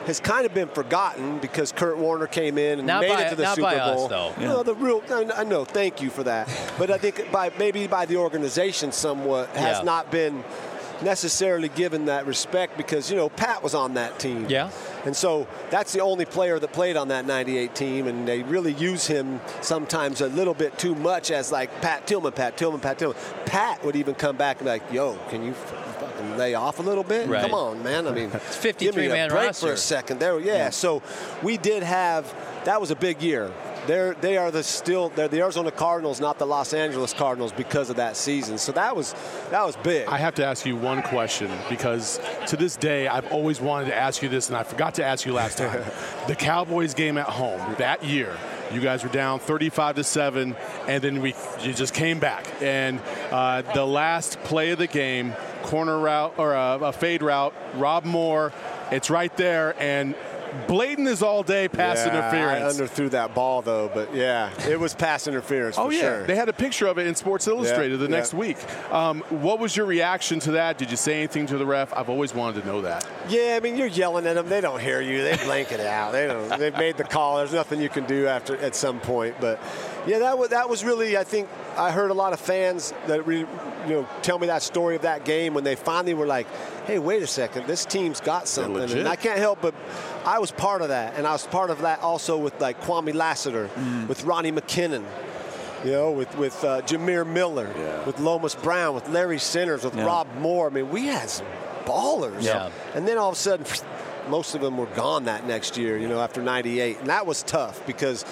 has kind of been forgotten because Kurt Warner came in and not made by, it to the not Super by Bowl. Us, though. Yeah. No, the real, I, I know, thank you for that. But I think by maybe by the organization somewhat has yeah. not been necessarily given that respect because, you know, Pat was on that team. Yeah. And so that's the only player that played on that ninety-eight team, and they really use him sometimes a little bit too much as like Pat Tillman, Pat Tillman, Pat Tillman. Pat would even come back and be like, yo, can you fucking lay off a little bit? Right. Come on, man. I mean, it's give me a fifty-three man break roster for a second there. Yeah, yeah, so we did have, that was a big year. They're, they are the still they're the Arizona Cardinals, not the Los Angeles Cardinals, because of that season. So that was that was big. I have to ask you one question because to this day I've always wanted to ask you this, and I forgot to ask you last time. The Cowboys game at home that year, you guys were down thirty-five to seven, and then we you just came back. And uh, the last play of the game, corner route or a, a fade route, Rob Moore, it's right there, and blatant as all day pass yeah, interference. I underthrew that ball, though, but yeah, it was pass interference oh, for yeah. sure. They had a picture of it in Sports Illustrated yeah, the yeah. next week. Um, what was your reaction to that? Did you say anything to the ref? I've always wanted to know that. Yeah, I mean, you're yelling at them. They don't hear you. They blank it out. They don't. They've made the call. There's nothing you can do after at some point. But, yeah, that was, that was really, I think, I heard a lot of fans that re, you know tell me that story of that game when they finally were like, hey, wait a second, this team's got something. And I can't help but I was part of that. And I was part of that also with, like, Kwame Lassiter, mm. with Ronnie McKinnon, you know, with, with uh, Jameer Miller, yeah. with Lomas Brown, with Larry Sinners, with yeah. Rob Moore. I mean, we had some ballers. Yeah. And then all of a sudden, most of them were gone that next year, you know, after ninety-eight. And that was tough because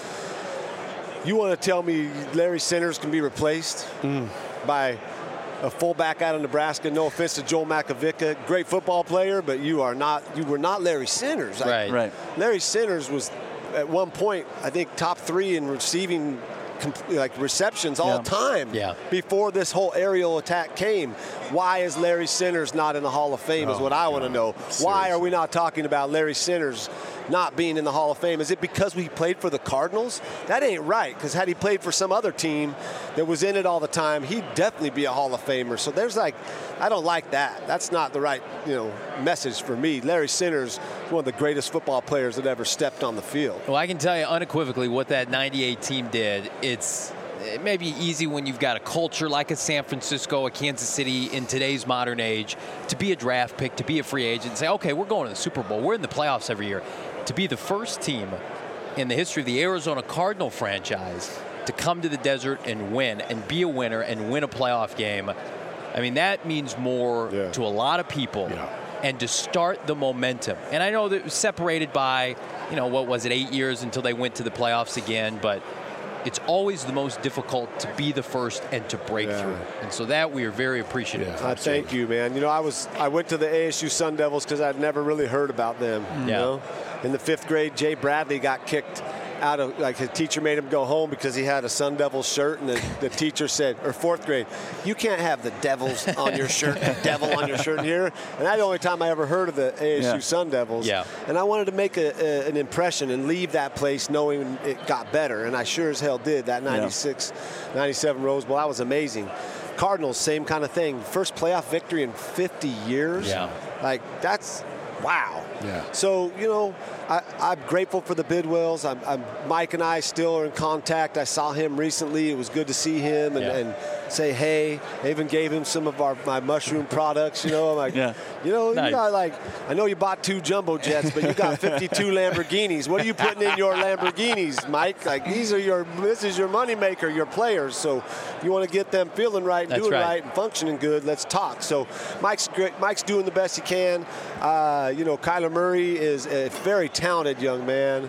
you want to tell me Larry Sinners can be replaced mm. by a fullback out of Nebraska? No offense to Joel Makovicka, great football player, but you are not. You were not Larry Sinners. Right, I, right. Larry Sinners was at one point, I think, top three in receiving like receptions all yeah. time. Yeah. Before this whole aerial attack came, why is Larry Sinners not in the Hall of Fame? Oh, is what I want to know. Seriously. Why are we not talking about Larry Sinners not being in the Hall of Fame? Is it because we played for the Cardinals? That ain't right, because had he played for some other team that was in it all the time, he'd definitely be a Hall of Famer. So there's like, I don't like that. That's not the right, you know, message for me. Larry Sinners, one of the greatest football players that ever stepped on the field. Well, I can tell you unequivocally what that ninety-eight team did. It's it may be easy when you've got a culture like a San Francisco, a Kansas City in today's modern age, to be a draft pick, to be a free agent, and say, okay, we're going to the Super Bowl. We're in the playoffs every year. To be the first team in the history of the Arizona Cardinal franchise to come to the desert and win and be a winner and win a playoff game, I mean, that means more yeah. to a lot of people. Yeah. And to start the momentum. And I know that it was separated by, you know, what was it, eight years until they went to the playoffs again, but it's always the most difficult to be the first and to break yeah. through. And so that we are very appreciative. Yeah, I thank you, man. You know, I was I went to the A S U Sun Devils because I'd never really heard about them. You yeah. know, in the fifth grade, Jay Bradley got kicked out of, like, his teacher made him go home because he had a Sun Devils shirt, and the, the teacher said, or fourth grade, you can't have the Devils on your shirt, the devil on your shirt here. And that's the only time I ever heard of the A S U yeah. Sun Devils. Yeah. And I wanted to make a, a, an impression and leave that place knowing it got better, and I sure as hell did. That ninety-six, ninety-seven Rose Bowl, that was amazing. Cardinals, same kind of thing. First playoff victory in fifty years. Yeah. Like, that's, wow. Yeah. So, you know, I, I'm grateful for the Bidwells. I'm, I'm, Mike and I still are in contact. I saw him recently. It was good to see him and, Yeah. and say hey. I even gave him some of our my mushroom products. You know, I'm like, Yeah. you know, Nice. you got like, I know you bought two jumbo jets, but you got fifty-two Lamborghinis. What are you putting in your Lamborghinis, Mike? Like, these are your, this is your moneymaker, your players. So you want to get them feeling right and That's doing right. right and functioning good. Let's talk. So Mike's great. Mike's doing the best he can. Uh, you know, Kyler Murray is a very talented young man.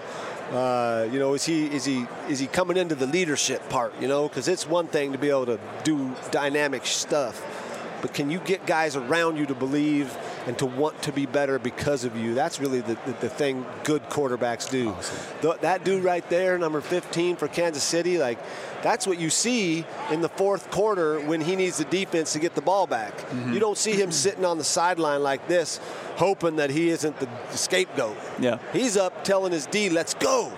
Uh, you know, is he is he is he coming into the leadership part? You know, because it's one thing to be able to do dynamic stuff, but can you get guys around you to believe and to want to be better because of you? That's really the, the, the thing good quarterbacks do. Awesome. Th- that dude right there, number fifteen for Kansas City, like, that's what you see in the fourth quarter when he needs the defense to get the ball back. Mm-hmm. You don't see him sitting on the sideline like this, hoping that he isn't the, the scapegoat. Yeah. He's up telling his D, let's go.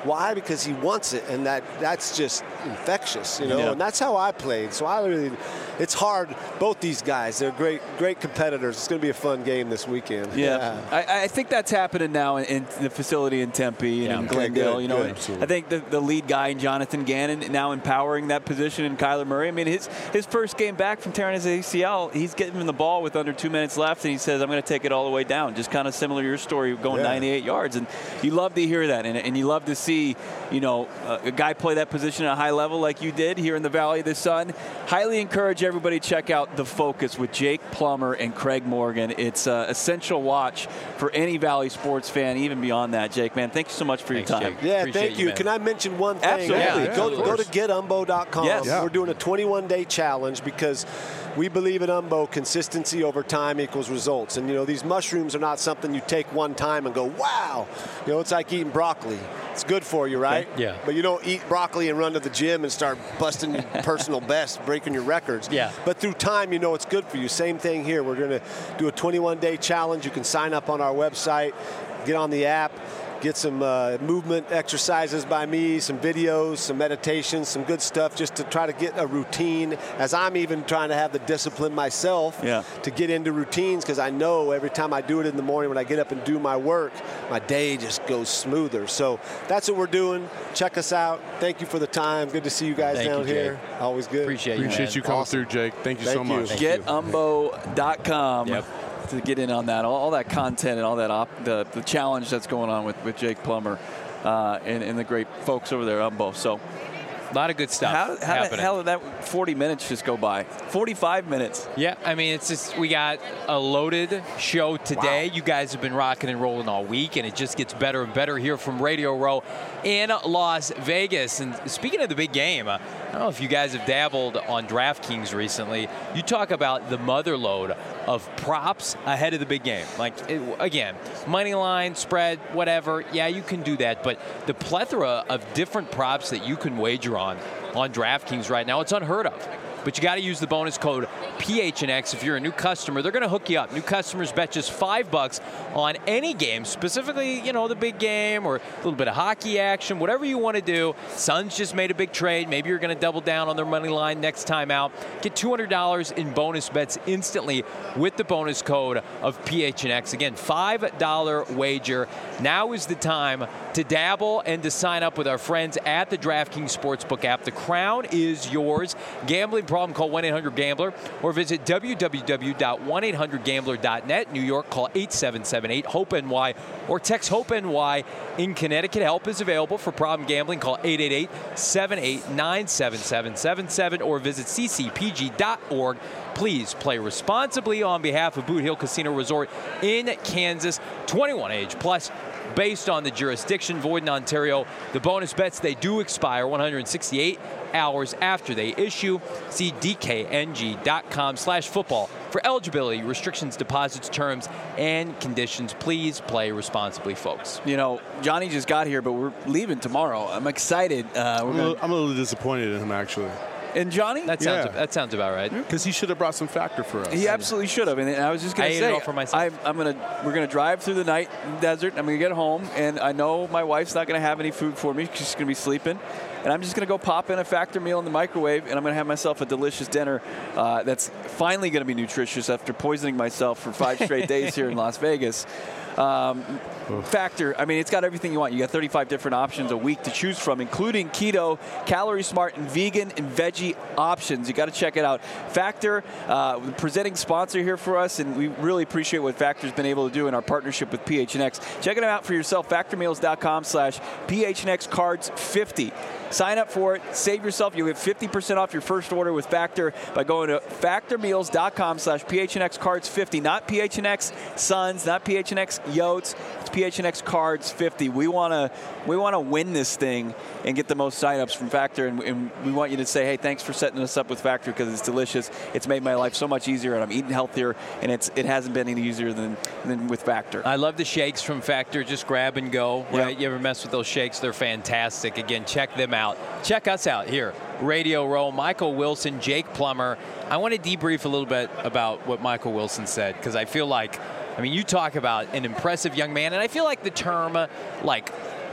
Why? Because he wants it, and that that's just infectious, you know. Yeah. And that's how I played. So I really, it's hard. Both these guys, they're great, great competitors. It's going to be a fun game this weekend. Yeah, yeah. I, I think that's happening now in, in the facility in Tempe and Yeah. in Okay, Glendale. good, you know, good. I think the, the lead guy, Jonathan Gannon, now empowering that position, and Kyler Murray. I mean, his his first game back from tearing his A C L, he's getting him the ball with under two minutes left, and he says, "I'm going to take it all the way down." Just kind of similar to your story, going Yeah. ninety-eight yards, and you love to hear that, and, and you love to see, you know, a, a guy play that position at a high level like you did here in the Valley of the Sun. Highly encourage everybody to check out The Focus with Jake Plummer and Craig Morgan. It's an essential watch for any Valley sports fan, even beyond that. Jake, man, thank you so much for Thanks, your time. Jake. Yeah, Appreciate thank you, you. man. Can I mention one thing? Absolutely. Yeah, go, of go to course. get umbo dot com. Yes. Yeah. We're doing a twenty-one day challenge because we believe at Umbo consistency over time equals results. And, you know, these mushrooms are not something you take one time and go, wow. You know, it's like eating broccoli. It's good for you, right? Okay. Yeah. But you don't eat broccoli and run to the gym and start busting your personal best, breaking your records. Yeah. But through time, you know it's good for you. Same thing here. We're going to do a twenty-one day challenge. You can sign up on our website, get on the app, get some uh, movement exercises by me, some videos, some meditations, some good stuff just to try to get a routine, as I'm even trying to have the discipline myself Yeah. to get into routines, because I know every time I do it in the morning when I get up and do my work, my day just goes smoother. So that's what we're doing. Check us out. Thank you for the time. Good to see you guys Thank down you, Jake. here. Always good. Appreciate you, Appreciate man. you coming Awesome. through, Jake. Thank you Thank so you. much. Thank get you. umbo dot com Yep. to get in on that. All, all that content and all that op, the, the challenge that's going on with, with Jake Plummer uh, and, and the great folks over there at Umbo. So A lot of good stuff how, how the happening. hell did that forty minutes just go by? forty-five minutes. Yeah, I mean, it's just, we got a loaded show today. You guys have been rocking and rolling all week, and it just gets better and better here from Radio Row in Las Vegas. And speaking of the big game, uh, I don't know if you guys have dabbled on DraftKings recently. You talk about the mother load of props ahead of the big game. Like, it, again, money line, spread, whatever. Yeah, you can do that. But the plethora of different props that you can wager on on DraftKings right now, it's unheard of. But you got to use the bonus code P H N X if you're a new customer. They're going to hook you up. New customers bet just five bucks on any game, specifically, you know, the big game or a little bit of hockey action, whatever you want to do. Suns just made a big trade. Maybe you're going to double down on their money line next time out. Get two hundred dollars in bonus bets instantly with the bonus code of P H N X. Again, five dollar wager. Now is the time to dabble and to sign up with our friends at the DraftKings Sportsbook app. The crown is yours. Gambling problem, call one eight hundred gambler or visit w w w dot one eight hundred gambler dot net. New York, call eight seven seven eight hope N Y or text HOPE N Y. In Connecticut, help is available for problem gambling. Call eight eight eight, seven eight nine, seven seven seven seven or visit c c p g dot org. Please play responsibly on behalf of Boot Hill Casino Resort in Kansas. twenty-one age plus. Based on the jurisdiction, void in Ontario. The bonus bets, they do expire one hundred sixty-eight hours after they issue. See d k n g dot com slash football for eligibility, restrictions, deposits, terms, and conditions. Please play responsibly, folks. You know, Johnny just got here, but we're leaving tomorrow. I'm excited. Uh, we're I'm, a gonna, little, I'm a little disappointed in him, actually, and Johnny? That sounds Yeah. that sounds about right. because he should have brought some factor for us. He absolutely should have, and I was just going I to ate say, it all for myself. I'm, I'm going to, we're going to drive through the night in the desert. I'm going to get home, and I know my wife's not going to have any food for me. She's going to be sleeping, and I'm just going to go pop in a Factor meal in the microwave, and I'm going to have myself a delicious dinner uh, that's finally going to be nutritious after poisoning myself for five straight days here in Las Vegas. Um, Factor, I mean, it's got everything you want. You got thirty-five different options a week to choose from, including keto, calorie smart, and vegan and veggie options. You got to check it out. Factor, uh, the presenting sponsor here for us, and we really appreciate what Factor's been able to do in our partnership with P H N X. Check it out for yourself, factor meals dot com slash P H N X cards fifty. Sign up for it. Save yourself. You'll get fifty percent off your first order with Factor by going to factor meals dot com slash P H N X cards fifty. Not P H N X Suns, not P H N X Yotes. It's P H N X cards fifty. We want to we want to win this thing and get the most signups from Factor, and, and we want you to say, hey, thanks for setting us up with Factor because it's delicious. It's made my life so much easier, and I'm eating healthier, and it's it hasn't been any easier than than with Factor. I love the shakes from Factor. Just grab and go, Yeah. right? You ever mess with those shakes? They're fantastic. Again, check them out. Check us out here. Radio Row, Michael Wilson, Jake Plummer. I want to debrief a little bit about what Michael Wilson said because I feel like, I mean, you talk about an impressive young man, and I feel like the term, uh, like,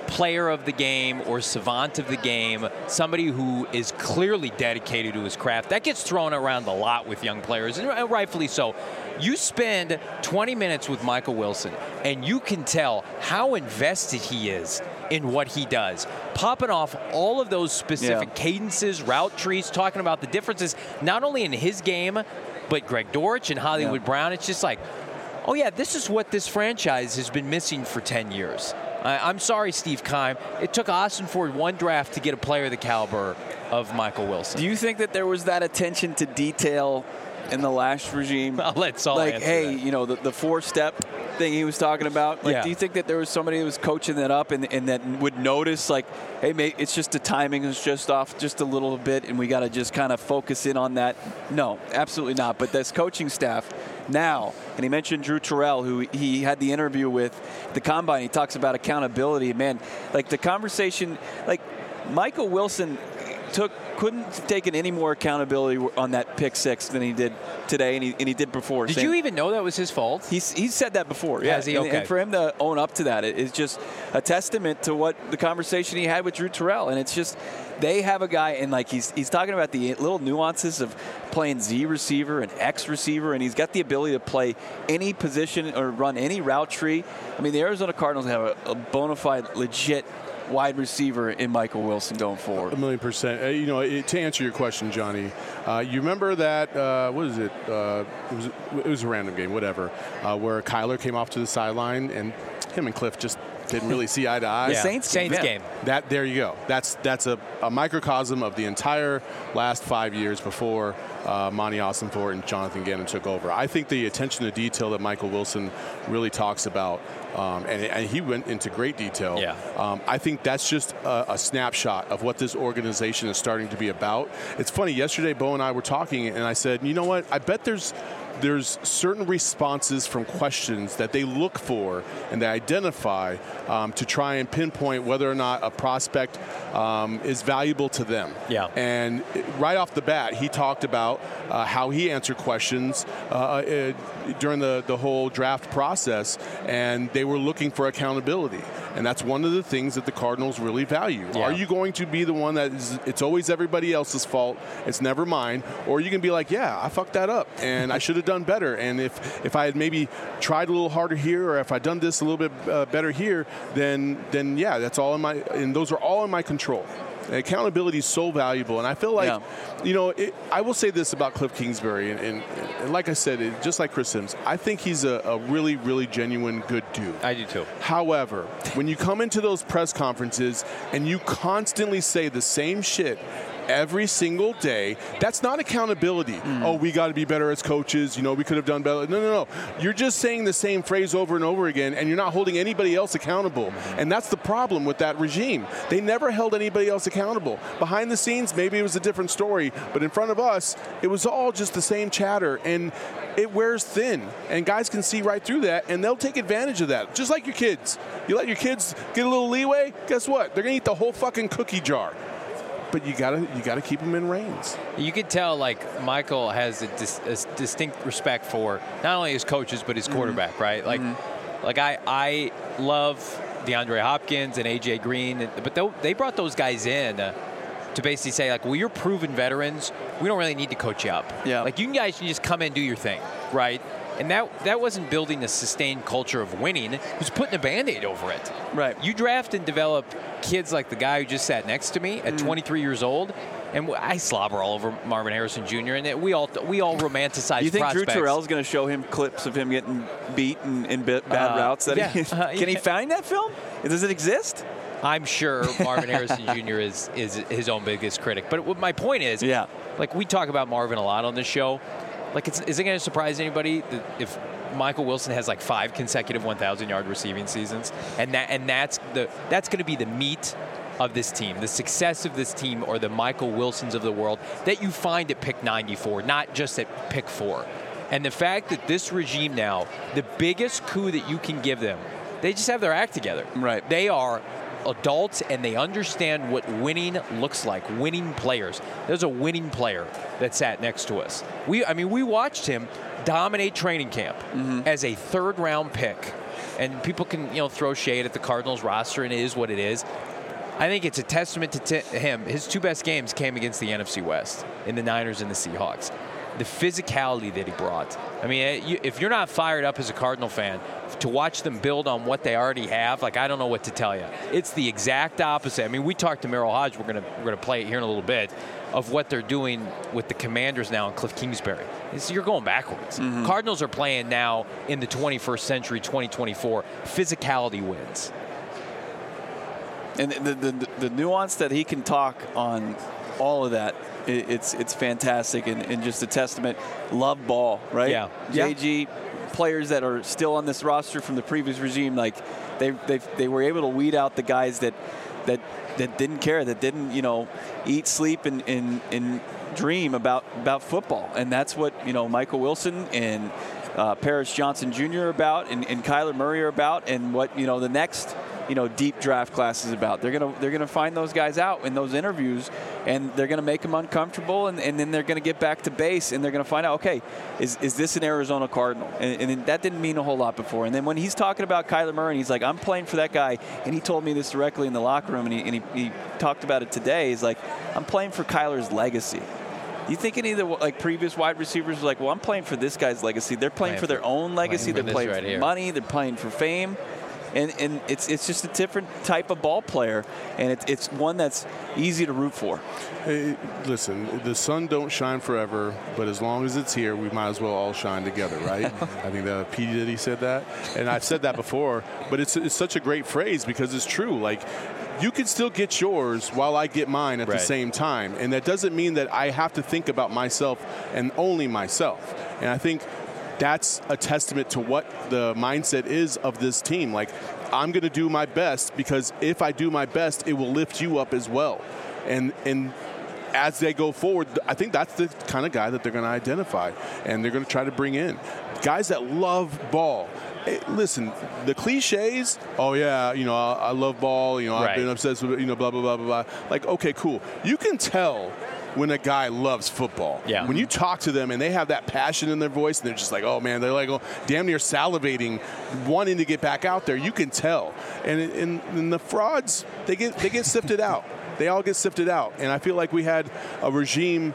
player of the game or savant of the game, somebody who is clearly dedicated to his craft. That gets thrown around a lot with young players, and rightfully so. You spend twenty minutes with Michael Wilson, and you can tell how invested he is in what he does. Popping off all of those specific yeah. cadences, route trees, talking about the differences, not only in his game, but Greg Dortch and Hollywood yeah. Brown. It's just like, oh yeah, this is what this franchise has been missing for ten years. I, I'm sorry, Steve Keim. It took Austin Ford one draft to get a player of the caliber of Michael Wilson. Do you think that there was that attention to detail in the last regime? I'll let Saul like, answer hey, that. you know, the, the four-step thing he was talking about. Like, Yeah. do you think that there was somebody who was coaching that up and, and that would notice, like, hey, mate, it's just the timing is just off just a little bit, and we got to just kind of focus in on that? No, absolutely not. But this coaching staff now, and he mentioned Drew Terrell, who he had the interview with at the Combine. He talks about accountability. Man, like the conversation, like Michael Wilson took couldn't have taken any more accountability on that pick six than he did today, and he, and he did before. Did Same, you even know that was his fault? He's he's said that before. Yeah, Has he? and, Okay. and for him to own up to that, it, it's just a testament to what the conversation he had with Drew Terrell. And it's just they have a guy, and like he's he's talking about the little nuances of playing Z receiver and X receiver, and he's got the ability to play any position or run any route tree. I mean, the Arizona Cardinals have a, a bona fide, legit wide receiver in Michael Wilson going forward. A million percent. Uh, you know, it, to answer your question, Johnny, uh, you remember that, uh, what is it? Uh, it, was, it was a random game, whatever, uh, where Kyler came off to the sideline and him and Cliff just didn't really see eye to eye. The Saints game. Saints Yeah. game. That there you go. That's that's a, a microcosm of the entire last five years before uh, Monty Ossenfort and Jonathan Gannon took over. I think the attention to detail that Michael Wilson really talks about, um, and, and he went into great detail. Yeah. Um, I think that's just a, a snapshot of what this organization is starting to be about. It's funny. Yesterday, Bo and I were talking, and I said, you know what? I bet there's. There's certain responses from questions that they look for and they identify um, to try and pinpoint whether or not a prospect um, is valuable to them. Yeah. And right off the bat, he talked about uh, how he answered questions uh, uh, during the, the whole draft process, and they were looking for accountability. And that's one of the things that the Cardinals really value. Yeah. Are you going to be the one that is, it's always everybody else's fault, it's never mine, or you can be like, yeah, I fucked that up, and I should have done better. And if, if I had maybe tried a little harder here, or if I'd done this a little bit uh, better here, then then yeah, that's all in my, and those are all in my control. And accountability is so valuable, and I feel like, Yeah. you know, it, I will say this about Cliff Kingsbury, and, and, and like I said, it, just like Chris Sims, I think he's a, a really, really genuine good dude. I do too. However, when you come into those press conferences and you constantly say the same shit every single day, that's not accountability. Mm. Oh, we got to be better as coaches. You know, we could have done better. No, no, no. You're just saying the same phrase over and over again, and you're not holding anybody else accountable. And that's the problem with that regime. They never held anybody else accountable. Behind the scenes, maybe it was a different story, but in front of us, it was all just the same chatter, and it wears thin. And guys can see right through that, and they'll take advantage of that. Just like your kids. You let your kids get a little leeway, guess what? They're going to eat the whole fucking cookie jar. But you gotta you gotta keep them in reins. You can tell, like, Michael has a, dis- a distinct respect for not only his coaches but his quarterback, mm-hmm. right? Like, mm-hmm. like I I love DeAndre Hopkins and A J Green, but they, they brought those guys in uh, to basically say, like, well, you're proven veterans. We don't really need to coach you up. Yeah. Like, you guys can just come in and do your thing, right? And that that wasn't building a sustained culture of winning. It was putting a Band-Aid over it. Right. You draft and develop kids like the guy who just sat next to me at Mm. twenty-three years old, and I slobber all over Marvin Harrison Junior, and we all we all romanticize. You think prospects. Drew Terrell's going to show him clips of him getting beat in, in bad Uh, routes? That yeah. he, Uh, can he yeah. find that film? Does it exist? I'm sure Marvin Harrison Junior is is his own biggest critic. But what my point is, Yeah. like, we talk about Marvin a lot on this show. Like, it's, is it going to surprise anybody that if Michael Wilson has like five consecutive one thousand yard receiving seasons, and that and that's the that's going to be the meat of this team, the success of this team, or the Michael Wilsons of the world that you find at pick ninety-four, not just at pick four. And the fact that this regime now, the biggest coup that you can give them, they just have their act together. Right. They are adults, and they understand what winning looks like, winning players. There's a winning player that sat next to us. We, I mean, we watched him dominate training camp mm-hmm. as a third-round pick and people can, you know, throw shade at the Cardinals roster, and it is what it is. I think it's a testament to t- him. His two best games came against the N F C West, in the Niners and the Seahawks. The physicality that he brought. I mean, if you're not fired up as a Cardinal fan to watch them build on what they already have, like, I don't know what to tell you. It's the exact opposite. I mean, we talked to Merrill Hodge. We're gonna we're gonna play it here in a little bit, of what they're doing with the Commanders now in Cliff Kingsbury. It's, you're going backwards. Mm-hmm. Cardinals are playing now in the twenty-first century, twenty twenty-four. Physicality wins. And the, the, the, the nuance that he can talk on all of that, it, it's it's fantastic and, and just a testament. Love ball, right? Yeah. J G, players that are still on this roster from the previous regime, like they they they were able to weed out the guys that that that didn't care, that didn't, you know, eat, sleep, and, and, and dream about, about football. And that's what, you know, Michael Wilson and uh, Paris Johnson Junior are about, and, and Kyler Murray are about, and what, you know, the next, you know, deep draft class is about. They're gonna they're gonna find those guys out in those interviews, and they're gonna make them uncomfortable, and, and then they're gonna get back to base, and they're gonna find out, okay, is is this an Arizona Cardinal? And, and that didn't mean a whole lot before. And then when he's talking about Kyler Murray, and he's like, I'm playing for that guy, and he told me this directly in the locker room, and he and he, he talked about it today. He's like, I'm playing for Kyler's legacy. You think any of the like previous wide receivers were like, well, I'm playing for this guy's legacy. They're playing, playing for, for their own legacy. Playing they're playing right for here. money. They're playing for fame. And, and it's it's just a different type of ball player, and it, it's one that's easy to root for. Hey, listen, the sun don't shine forever, but as long as it's here, we might as well all shine together, right? I think that P. Diddy said that, and I've said that before, but it's it's such a great phrase because it's true. Like, you can still get yours while I get mine at right. the same time, and that doesn't mean that I have to think about myself and only myself. And I think that's a testament to what the mindset is of this team. Like, I'm going to do my best because if I do my best, it will lift you up as well. And and as they go forward, I think that's the kind of guy that they're going to identify, and they're going to try to bring in guys that love ball. Hey, listen, the cliches, oh, yeah, you know, I, I love ball, you know, right. I've been obsessed with, you know, blah, blah, blah, blah, blah. Like, okay, cool. You can tell when a guy loves football. Yeah. When you talk to them and they have that passion in their voice and they're just like, oh, man, they're like oh, damn near salivating, wanting to get back out there, you can tell. And, and, and the frauds, they get they get sifted out. They all get sifted out. And I feel like we had a regime,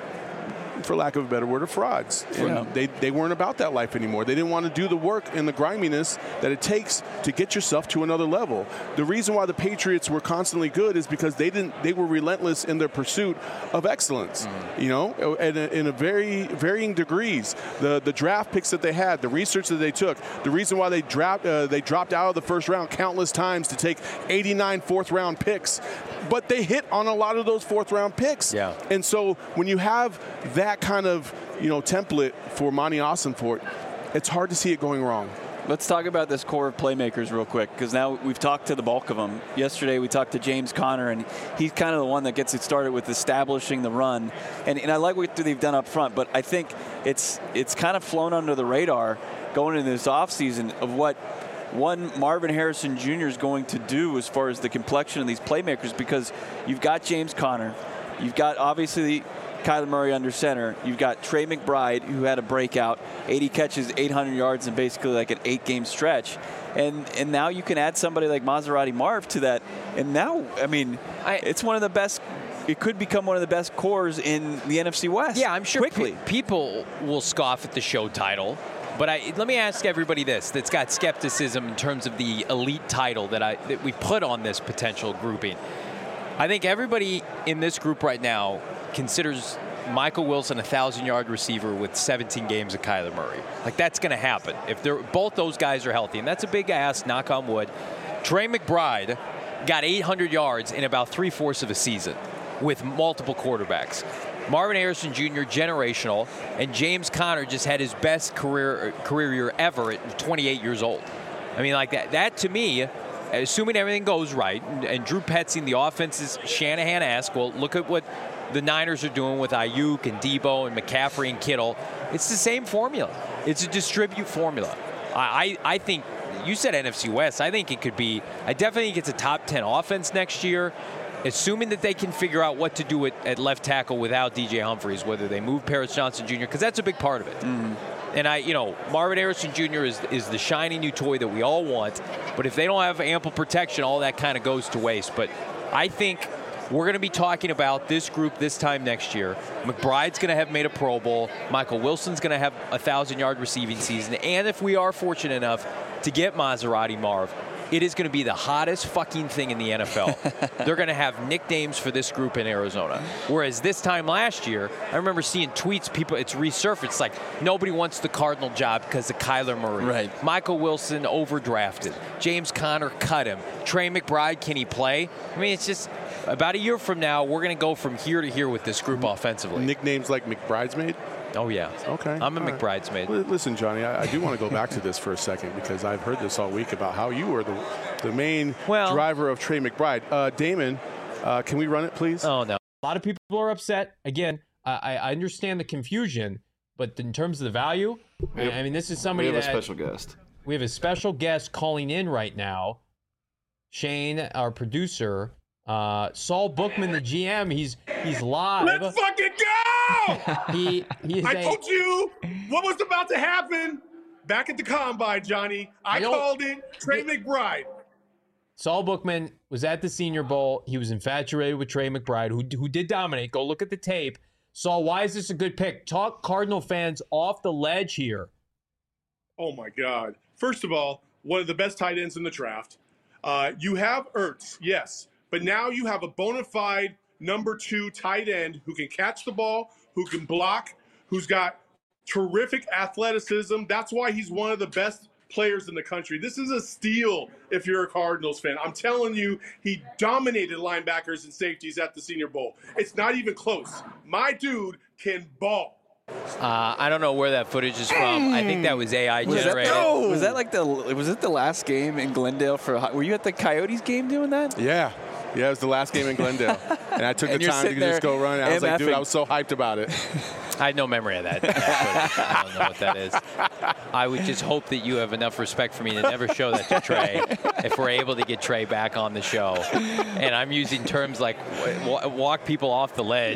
for lack of a better word, of frauds. Yeah. They, they weren't about that life anymore. They didn't want to do the work and the griminess that it takes to get yourself to another level. The reason why the Patriots were constantly good is because they didn't. They were relentless in their pursuit of excellence. Mm. You know, in a, in a very varying degrees. The the draft picks that they had, the research that they took, the reason why they dropped uh, they dropped out of the first round countless times to take eighty-nine fourth round picks, but they hit on a lot of those fourth round picks. Yeah. And so when you have that kind of, you know, template for Monty Ossenfort, it's hard to see it going wrong. Let's talk about this core of playmakers real quick, because now we've talked to the bulk of them. Yesterday we talked to James Conner, and he's kind of the one that gets it started with establishing the run. And, and I like what they've done up front, but I think it's it's kind of flown under the radar going into this offseason of what one Marvin Harrison Junior is going to do as far as the complexion of these playmakers, because you've got James Conner, you've got obviously Kyler Murray under center. You've got Trey McBride, who had a breakout, eighty catches, eight hundred yards in basically like an eight-game stretch. And and now you can add somebody like Maserati Marv to that. And now, I mean, I, it's one of the best. It could become one of the best cores in the N F C West. Yeah, I'm sure quickly. Pe- people will scoff at the show title. But I, let me ask everybody this that's got skepticism in terms of the elite title that I that we put on this potential grouping. I think everybody in this group right now considers Michael Wilson a thousand-yard receiver with seventeen games of Kyler Murray. Like, that's going to happen if they're both those guys are healthy, and that's a big ask, knock on wood. Trey McBride got eight hundred yards in about three-fourths of a season with multiple quarterbacks. Marvin Harrison Junior, generational, and James Conner just had his best career career year ever at twenty-eight years old. I mean, like that. That to me, assuming everything goes right, and, and Drew Petzing, the offense is Shanahan-esque. Well, look at what the Niners are doing with Ayuk and Debo and McCaffrey and Kittle. It's the same formula. It's a distribute formula. I, I, I think, you said N F C West. I think it could be, I definitely think it's a top ten offense next year, assuming that they can figure out what to do at, at left tackle without D J Humphries, whether they move Paris Johnson Junior, because that's a big part of it. Mm. And I, you know, Marvin Harrison Junior is is the shiny new toy that we all want. But if they don't have ample protection, all that kind of goes to waste. But I think we're going to be talking about this group this time next year. McBride's going to have made a Pro Bowl. Michael Wilson's going to have a thousand-yard receiving season. And if we are fortunate enough to get Maserati Marv, it is going to be the hottest fucking thing in the N F L. They're going to have nicknames for this group in Arizona. Whereas this time last year, I remember seeing tweets, people, it's resurfaced, like nobody wants the Cardinal job because of Kyler Murray. Right. Michael Wilson overdrafted. James Conner cut him. Trey McBride, can he play? I mean, it's just about a year from now, we're going to go from here to here with this group offensively. Nicknames like McBridesmaid? Oh, yeah. Okay. I'm a All right. McBridesmaid. Well, listen, Johnny, I, I do want to go back to this for a second because I've heard this all week about how you were the, the main Well- driver of Trey McBride. Uh, Damon, uh, can we run it, please? Oh, no. A lot of people are upset. Again, I, I understand the confusion, but in terms of the value, I, I mean, this is We somebody have a that special guest. we have a special guest calling in right now. Shane, our producer, uh, Saul Bookman, the G M. He's he's live. Let's fucking go! He he is I a, told you what was about to happen back at the combine, Johnny. I, I don't- called it Trey McBride. Saul Bookman was at the Senior Bowl. He was infatuated with Trey McBride, who who did dominate. Go look at the tape. Saul, why is this a good pick? Talk Cardinal fans off the ledge here. Oh my God! First of all, one of the best tight ends in the draft. Uh, you have Ertz, yes, but now you have a bona fide number two tight end who can catch the ball, who can block, who's got terrific athleticism. That's why he's one of the best players in the country. This is a steal if you're a Cardinals fan. I'm telling you, he dominated linebackers and safeties at the Senior Bowl. It's not even close. My dude can ball. Uh, I don't know where that footage is from. I think that was A I Was that, generated. the, was that like the was it the last game in Glendale for? Were you at the Coyotes game doing that? Yeah. Yeah, it was the last game in Glendale. And I took And the you're time to sitting just there go run. I was like, dude, MFing. I was so hyped about it. I had no memory of that. that footage. I don't know what that is. I would just hope that you have enough respect for me to never show that to Trey if we're able to get Trey back on the show. And I'm using terms like w- walk people off the ledge.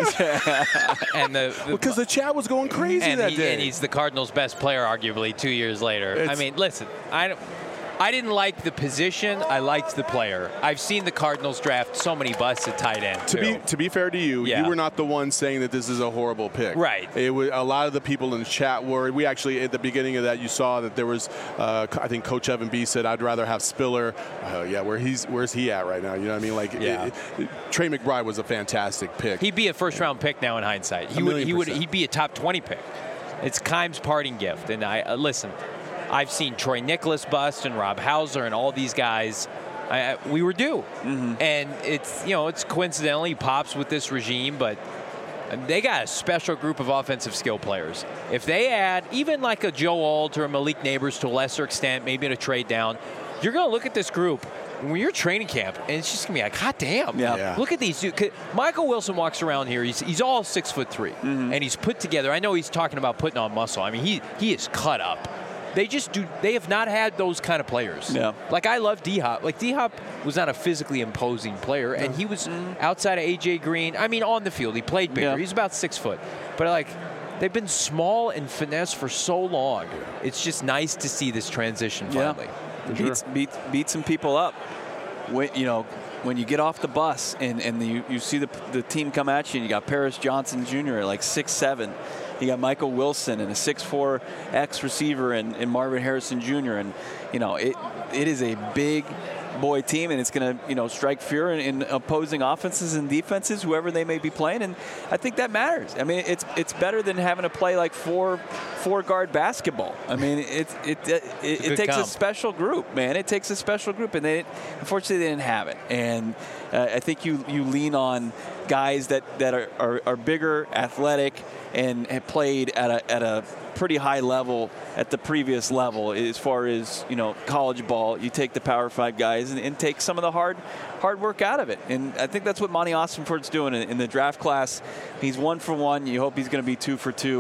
and the, the Because the chat was going crazy and, that he, day. and he's the Cardinals' best player, arguably, two years later. I It's- mean, listen, I don't. I didn't like the position. I liked the player. I've seen the Cardinals draft so many busts at tight end, To too. be to be fair to you, Yeah. you were not the one saying that this is a horrible pick. Right. It was a lot of the people in the chat were. We actually at the beginning of that, you saw that there was. Uh, I think Coach Evan B said, "I'd rather have Spiller." Uh, yeah, where he's where's he at right now? You know what I mean? Like, Yeah. it, it, Trey McBride was a fantastic pick. He'd be a first-round pick now in hindsight. He A would. million He would. percent. He'd be a top twenty pick. It's Keim's parting gift. And I uh, listen. I've seen Troy Nicholas bust and Rob Hauser and all these guys. I, I, we were due, Mm-hmm. and it's you know it's coincidentally pops with this regime, but they got a special group of offensive skill players. If they add even like a Joe Alt or a Malik Neighbors to a lesser extent, maybe in a trade down, you're going to look at this group when you're training camp, and it's just going to be like, hot damn. Yeah. Yeah. Look at these dudes. 'Cause Michael Wilson walks around here. He's, he's all six foot three, Mm-hmm. and he's put together. I know he's talking about putting on muscle. I mean, he he is cut up. They just do. They have not had those kind of players. Yeah. Like I love D Hop. Like D Hop was not a physically imposing player, and he was outside of A J Green. I mean, on the field, he played bigger. Yeah. He's about six foot, but like. They've been small and finesse for so long. It's just nice to see this transition finally. Beat, beat, beat some people up. When, you know, when you get off the bus and, and the, you, you see the, the team come at you, and you got Paris Johnson Junior at like six seven. You got Michael Wilson and a six four X receiver and, and Marvin Harrison Junior And, you know, it it is a big boy team, and it's going to, you know, strike fear in, in opposing offenses and defenses, whoever they may be playing. And I think that matters. I mean, it's it's better than having to play like four four guard basketball. I mean, it it it, it, good it takes comp. a special group, man. It takes a special group, and they unfortunately they didn't have it. And uh, I think you you lean on guys that that are are, are bigger, athletic, and have played at a at a pretty high level at the previous level as far as, you know, college ball. You take the Power Five guys and, and take some of the hard hard work out of it. And I think that's what Monty Austinford's doing in, in the draft class. He's one for one. You hope he's going to be two for two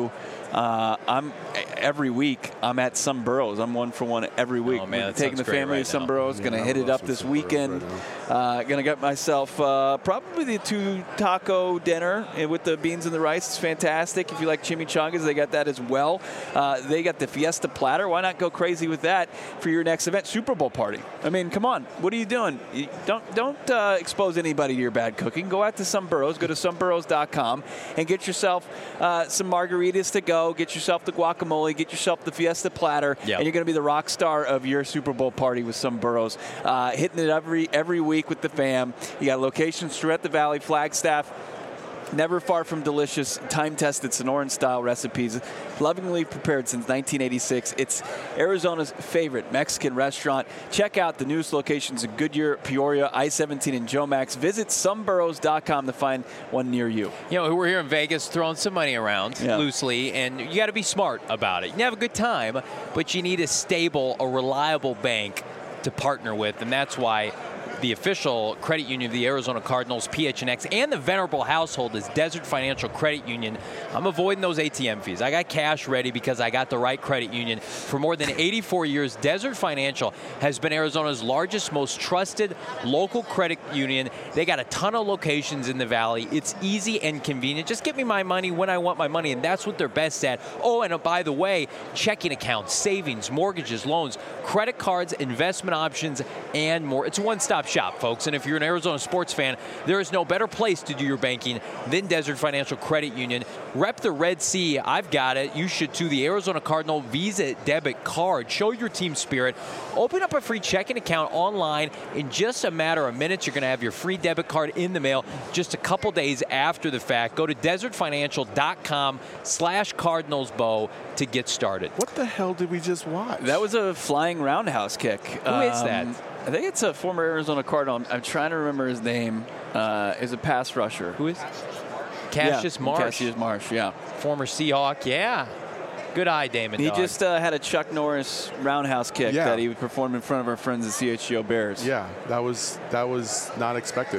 Uh, I'm every week. I'm at some Burrows. I'm one for one every week. Oh, man, We're that taking sounds the great family right to some now. Burrows. Yeah, Going to I hit it love up some this Burrows weekend. right uh, Going to get myself uh, probably the two taco dinner with the beans and the rice. It's fantastic. If you like chimichangas, they got that as well. Uh, they got the Fiesta platter. Why not go crazy with that for your next event? Super Bowl party. I mean, come on. What are you doing? You don't don't uh, expose anybody to your bad cooking. Go out to some Burrows. Go to some burrows dot com and get yourself uh, some margaritas to go. Get yourself the guacamole. Get yourself the Fiesta platter. Yep. And you're going to be the rock star of your Super Bowl party with some Burrows. Uh, hitting it every every week with the fam. You got locations throughout the Valley, Flagstaff. Never far from delicious, time-tested Sonoran-style recipes, lovingly prepared since nineteen eighty-six. It's Arizona's favorite Mexican restaurant. Check out the newest locations in Goodyear, Peoria, I seventeen, and Jomax. Visit some burrows dot com to find one near you. You know, we're here in Vegas throwing some money around Yeah. loosely, and you got to be smart about it. You can have a good time, but you need a stable, a reliable bank to partner with, and that's why the official credit union of the Arizona Cardinals, P H N X, and the Venerable household is Desert Financial Credit Union. I'm avoiding those A T M fees. I got cash ready because I got the right credit union. For more than eighty-four years, Desert Financial has been Arizona's largest, most trusted local credit union. They got a ton of locations in the Valley. It's easy and convenient. Just give me my money when I want my money, and that's what they're best at. Oh, and by the way, checking accounts, savings, mortgages, loans, credit cards, investment options, and more. It's a one-stop shop, folks. And if you're an Arizona sports fan, there is no better place to do your banking than Desert Financial Credit Union. Rep the Red Sea. I've got it. You should too. The Arizona Cardinal Visa debit card. Show your team spirit. Open up a free checking account online. In just a matter of minutes, you're going to have your free debit card in the mail just a couple days after the fact. Go to desert financial dot com slash cardinals bow to get started. What the hell did we just watch? That was a flying roundhouse kick. Who is that? I think it's a former Arizona Cardinal. I'm, I'm trying to remember his name. Uh, is a pass rusher. Who is Cassius yeah, Marsh? Cassius Marsh, yeah. Former Seahawk, yeah. Good eye, Damon He Dog. just uh, had a Chuck Norris roundhouse kick Yeah. that he performed in front of our friends at C H G O Bears. Yeah, that was that was not expected.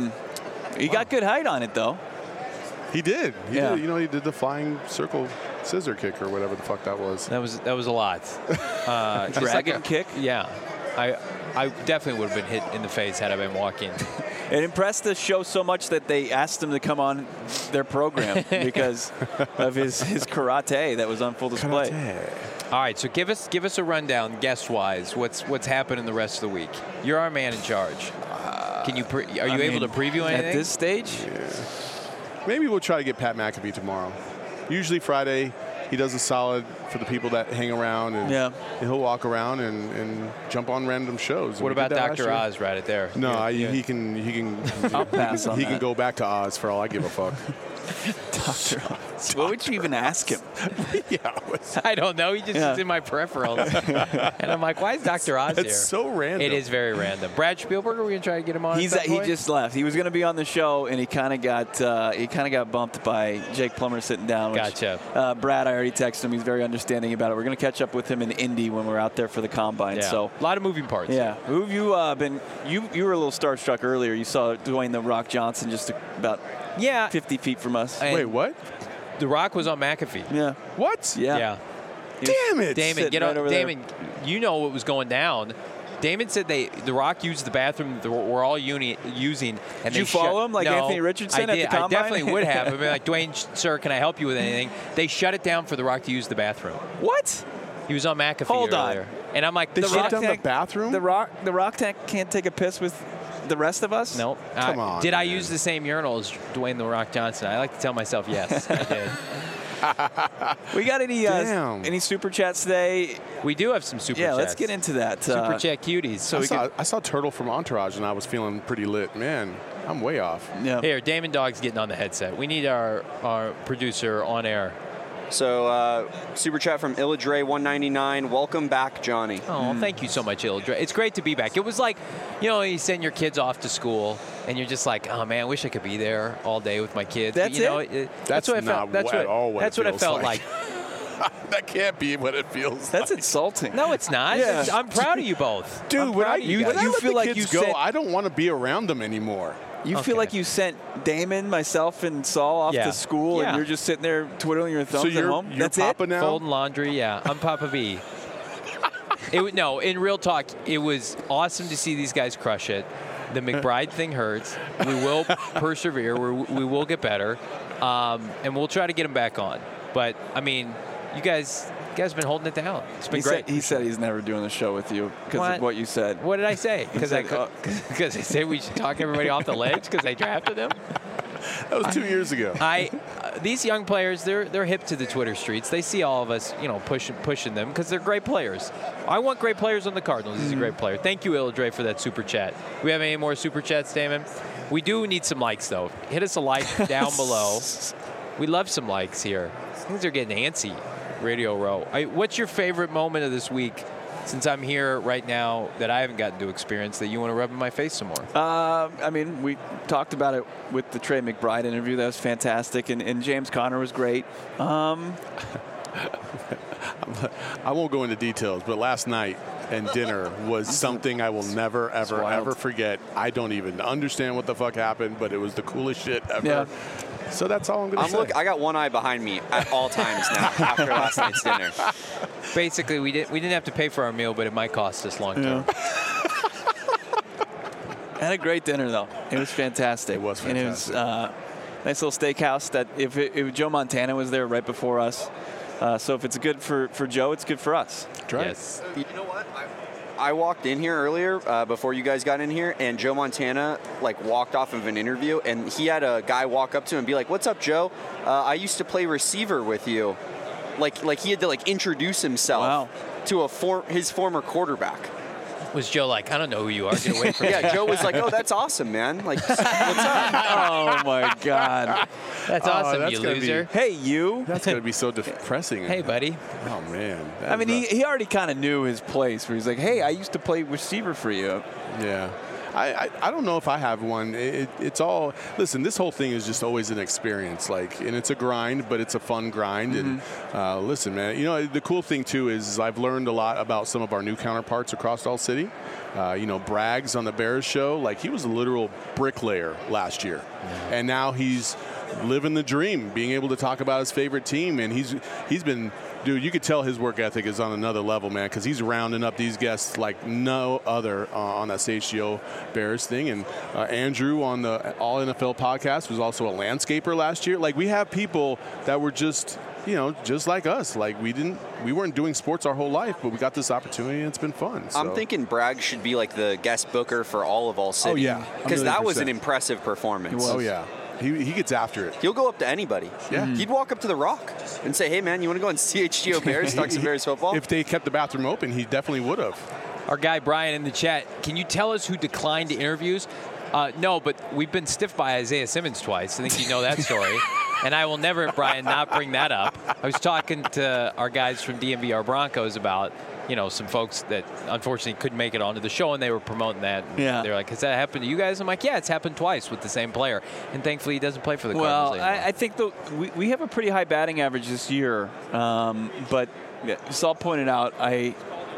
He got good height on it, though. He did. He Yeah. did. You know, he did the flying circle scissor kick or whatever the fuck that was. That was that was a lot. Uh, just like Dragon a- kick? Yeah, I I definitely would have been hit in the face had I been walking. It impressed the show so much that they asked him to come on their program because of his, his karate that was on full display. All right, so give us give us a rundown, guest wise. What's what's happening the rest of the week? You're our man in charge. Can you pre- are you I able mean, to preview anything? At this stage? Maybe we'll try to get Pat McAfee tomorrow. Usually Friday, he does a solid for the people that hang around, and Yeah. he'll walk around and, and jump on random shows. What We did about that last Doctor year. Oz right at there? No, Yeah, I, yeah. he can he can I'll pass on he that. can go back to Oz for all I give a fuck. Doctor Oz. What would you even ask him? yeah, I don't know. He just Yeah. is in my peripherals, and I'm like, why is Doctor Oz here? it's so random. It is very random. Brad Spielberg, are we gonna try to get him on? He's at some he point? just left. He was going to be on the show, and he kind of got uh, he kind of got bumped by Jake Plummer sitting down. Which, Gotcha. Uh, Brad, I already texted him. He's very understanding about it. We're going to catch up with him in Indy when we're out there for the combine. Yeah. So a lot of moving parts. yeah, who have you uh, been? You you were a little starstruck earlier. You saw Dwayne the Rock Johnson just about yeah. fifty feet from us. And Wait, what? The Rock was on McAfee. Yeah, What? yeah. Yeah. Damn it! Damon, sitting get right on. over there. Damon, you know what was going down. Damon said they, The Rock used the bathroom that we're all uni, using. And Did you they follow shut, him like no, Anthony Richardson I at the did, combine? I definitely would have. I'd be like, Dwayne, sir, can I help you with anything? They shut it down for The Rock to use the bathroom. What? He was on McAfee Hold on. earlier. And I'm like, They The shut Rock. down the tank- bathroom? The Rock the Rock tank can't take a piss with the rest of us? Nope. Come I- on, Did I man. use the same urinal as Dwayne The Rock Johnson? I like to tell myself yes, I did. We got any uh, Damn. any super chats today? We do have some super yeah, chats. let's get into that. Super Uh, chat cuties. So I, we saw, can, I saw Turtle from Entourage, and I was feeling pretty lit. Man, I'm way off. Yeah. Here, Damon Dog's getting on the headset. We need our, our producer on air. So, uh, super chat from Illadre one ninety-nine. Welcome back, Johnny. Oh, thank you so much, Ildra. It's great to be back. It was like, you know, you send your kids off to school, and you're just like, oh man, I wish I could be there all day with my kids. That's but, you know, it? it- That's that's what I not felt. That's at what, all what that's it what I feels felt like. like. That can't be what it feels That's like. insulting. No, it's not. Yeah. It's- I'm proud of you both. Dude, I'm when proud I, of you, when guys. I you let feel the like kids you go, said- I don't want to be around them anymore. You Okay. feel like you sent Damon, myself, and Saul off Yeah. to school, Yeah. and you're just sitting there twiddling your thumbs So at you're, home? you're That's Papa it? now? Folding laundry, yeah. I'm Papa V. It w- no, in real talk, it was awesome to see these guys crush it. The McBride thing hurts. We will persevere. We're, we will get better, um, and we'll try to get them back on. But I mean, you guys, you guys have been holding it down. It's been He great. said, he said he's never doing the show with you because What? of what you said. What did I say? Because I said, uh, because I said we should talk everybody off the ledge because I drafted them. That was two years ago. I uh, these young players, they're they're hip to the Twitter streets. They see all of us, you know, pushing pushing them because they're great players. I want great players on the Cardinals. He's a great player. Thank you, Illadre, for that super chat. Do we have any more super chats, Damon? We do need some likes though. Hit us a like down below. We love some likes here. Things are getting antsy. Radio Row. I, what's your favorite moment of this week? Since I'm here right now, that I haven't gotten to experience, that you want to rub in my face some more. Uh, I mean, we talked about it with the Trey McBride interview. That was fantastic, and, and James Conner was great. Um, I won't go into details, but last night and dinner was something I will never, ever, wild. ever forget. I don't even understand what the fuck happened, but it was the coolest shit ever. Yeah. So that's all I'm going to I'm say. look. I got one eye behind me at all times now after last night's dinner. Basically, we didn't we didn't have to pay for our meal, but it might cost us long term. Had a great dinner though. It was fantastic. It was And it was fantastic. uh, nice little steakhouse. That if, it, if Joe Montana was there right before us, uh, so if it's good for, for Joe, it's good for us. right. Yes. You know what? I, I walked in here earlier uh, before you guys got in here, and Joe Montana like walked off of an interview, and he had a guy walk up to him and be like, "What's up, Joe? Uh, I used to play receiver with you." Like, like he had to like introduce himself Wow. to a for, his former quarterback. Was Joe like, I don't know who you are. Get away from me. Yeah, Joe was like, "Oh, that's awesome, man. Like, what's up?" Oh my God! That's Oh, awesome, that's you gonna be- loser. Hey, you. That's going to be so depressing. Hey, buddy. Oh, man. That I mean, is he, he already kind of knew his place. Where he's like, "Hey, I used to play receiver for you." a- Yeah. I, I, I don't know if I have one. It, it, it's all, listen, this whole thing is just always an experience. Like, and it's a grind, but it's a fun grind. And uh, listen, man, you know, the cool thing, too, is I've learned a lot about some of our new counterparts across All City. Uh, you know, Braggs on the Bears show, like, he was a literal bricklayer last year. And now he's living the dream, being able to talk about his favorite team. And he's he's been, dude, you could tell his work ethic is on another level, man, because he's rounding up these guests like no other uh, on that C H G O Bears thing. And uh, Andrew on the All N F L podcast was also a landscaper last year. Like, we have people that were just, you know, just like us. Like, we didn't, we weren't doing sports our whole life, but we got this opportunity and it's been fun. I'm So- thinking Bragg should be like the guest booker for all of All City. yeah, a because million that was percent. an impressive performance. Oh, yeah. He, he gets after it. He'll go up to anybody. Yeah. He'd walk up to The Rock and say, "Hey, man, you want to go on C H G O Bears, talk some Bears football?" If they kept the bathroom open, he definitely would have. Our guy Brian in the chat, can you tell us who declined interviews? Uh, no, but we've been stiffed by Isaiah Simmons twice. I think you know that story. And I will never, Brian, not bring that up. I was talking to our guys from D M V R Broncos about, you know, some folks that unfortunately couldn't make it onto the show, and they were promoting that. And Yeah. They're like, has that happened to you guys? I'm like, yeah, it's happened twice with the same player. And thankfully, he doesn't play for the Well, Cardinals anymore. I, I think the, we, we have a pretty high batting average this year, um, but yeah, Saul pointed out, I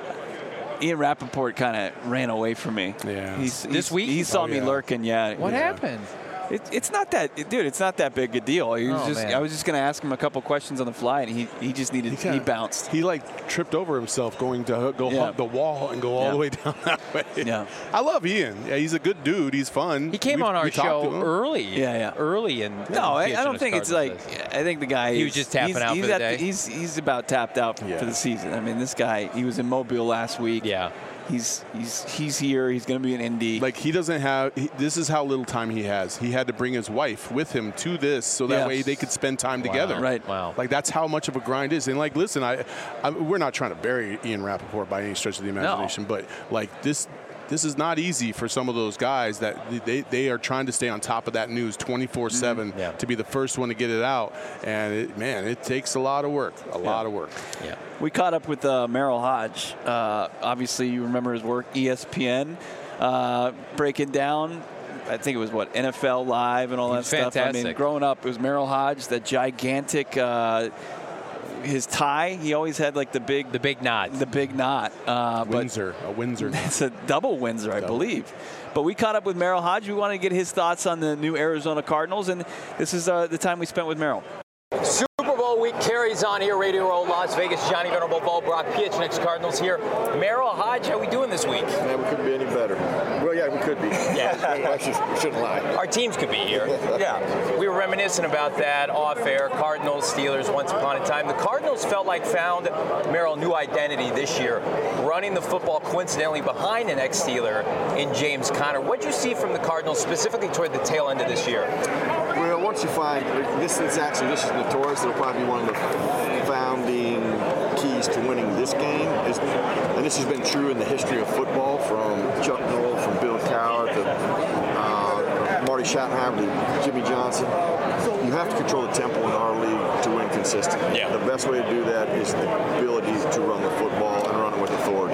Ian Rappaport kind of ran away from me. Yeah. He's, This he's- week? He saw Oh, me yeah. lurking, yeah. what yeah. happened? It, it's not that, dude. It's not that big a deal. He was Oh, just. man. I was just gonna ask him a couple questions on the fly, and he, he just needed. He, kinda- bounced. He like tripped over himself going to go Yeah. hug the wall and go all Yeah. the way down that way. Yeah. I love Ian. Yeah, he's a good dude. He's fun. He came We- on our we talked to show him. early. Yeah, yeah. Early in. No, I, I don't P H N S think it's Cardinals like. days. I think the guy. He was is- just tapping he's, out he's for the at day? He's he's about tapped out Yeah. for the season. I mean, this guy. He was in Mobile last week. Yeah. He's he's he's here. He's going to be in Indy. Like, he doesn't have. He, this is how little time he has. He had to bring his wife with him to this so that Yeah. way they could spend time together. Right. Wow. Like, that's how much of a grind is. And like, listen, I, I we're not trying to bury Ian Rappaport by any stretch of the imagination, but like this. This is not easy for some of those guys that they, they are trying to stay on top of that news twenty-four seven Yeah. to be the first one to get it out. And, it, man, it takes a lot of work, a lot of work. Yeah. We caught up with uh, Merrill Hodge. Uh, obviously, you remember his work, E S P N, uh, breaking down. I think it was what N F L Live and all that He's stuff. I mean, fantastic. growing up, it was Merrill Hodge, that gigantic. Uh, his tie. He always had like the big, the big knot, the big knot. Uh, Windsor, a Windsor. It's a double Windsor, I double. believe. But we caught up with Merril Hoge. We wanted to get his thoughts on the new Arizona Cardinals, and this is uh, the time we spent with Merril. Super Bowl week carries on here. Radio Row, Las Vegas. Johnny Venerable, Bo Brock, P H N X Cardinals here. Merril Hoge, how we doing this week? Man, we couldn't be any better. Well, yeah, we could be. Yeah. I should, shouldn't lie. Our teams could be here. Yeah. We were reminiscing about that off air. Cardinals, Steelers, once upon a time. The Cardinals felt like found Merril new identity this year, running the football coincidentally behind an ex-Steeler in James Conner. What did you see from the Cardinals specifically toward the tail end of this year? Well, once you find this is actually this is notorious. It'll probably be one of the founding keys to winning this game. Is, and this has been true in the history of football, from Chuck Noll, from Bill Cowher to uh, Marty Schottenheimer to Jimmy Johnson. You have to control the tempo in our league to win consistently. Yeah. The best way to do that is the ability to run the football and run it with authority.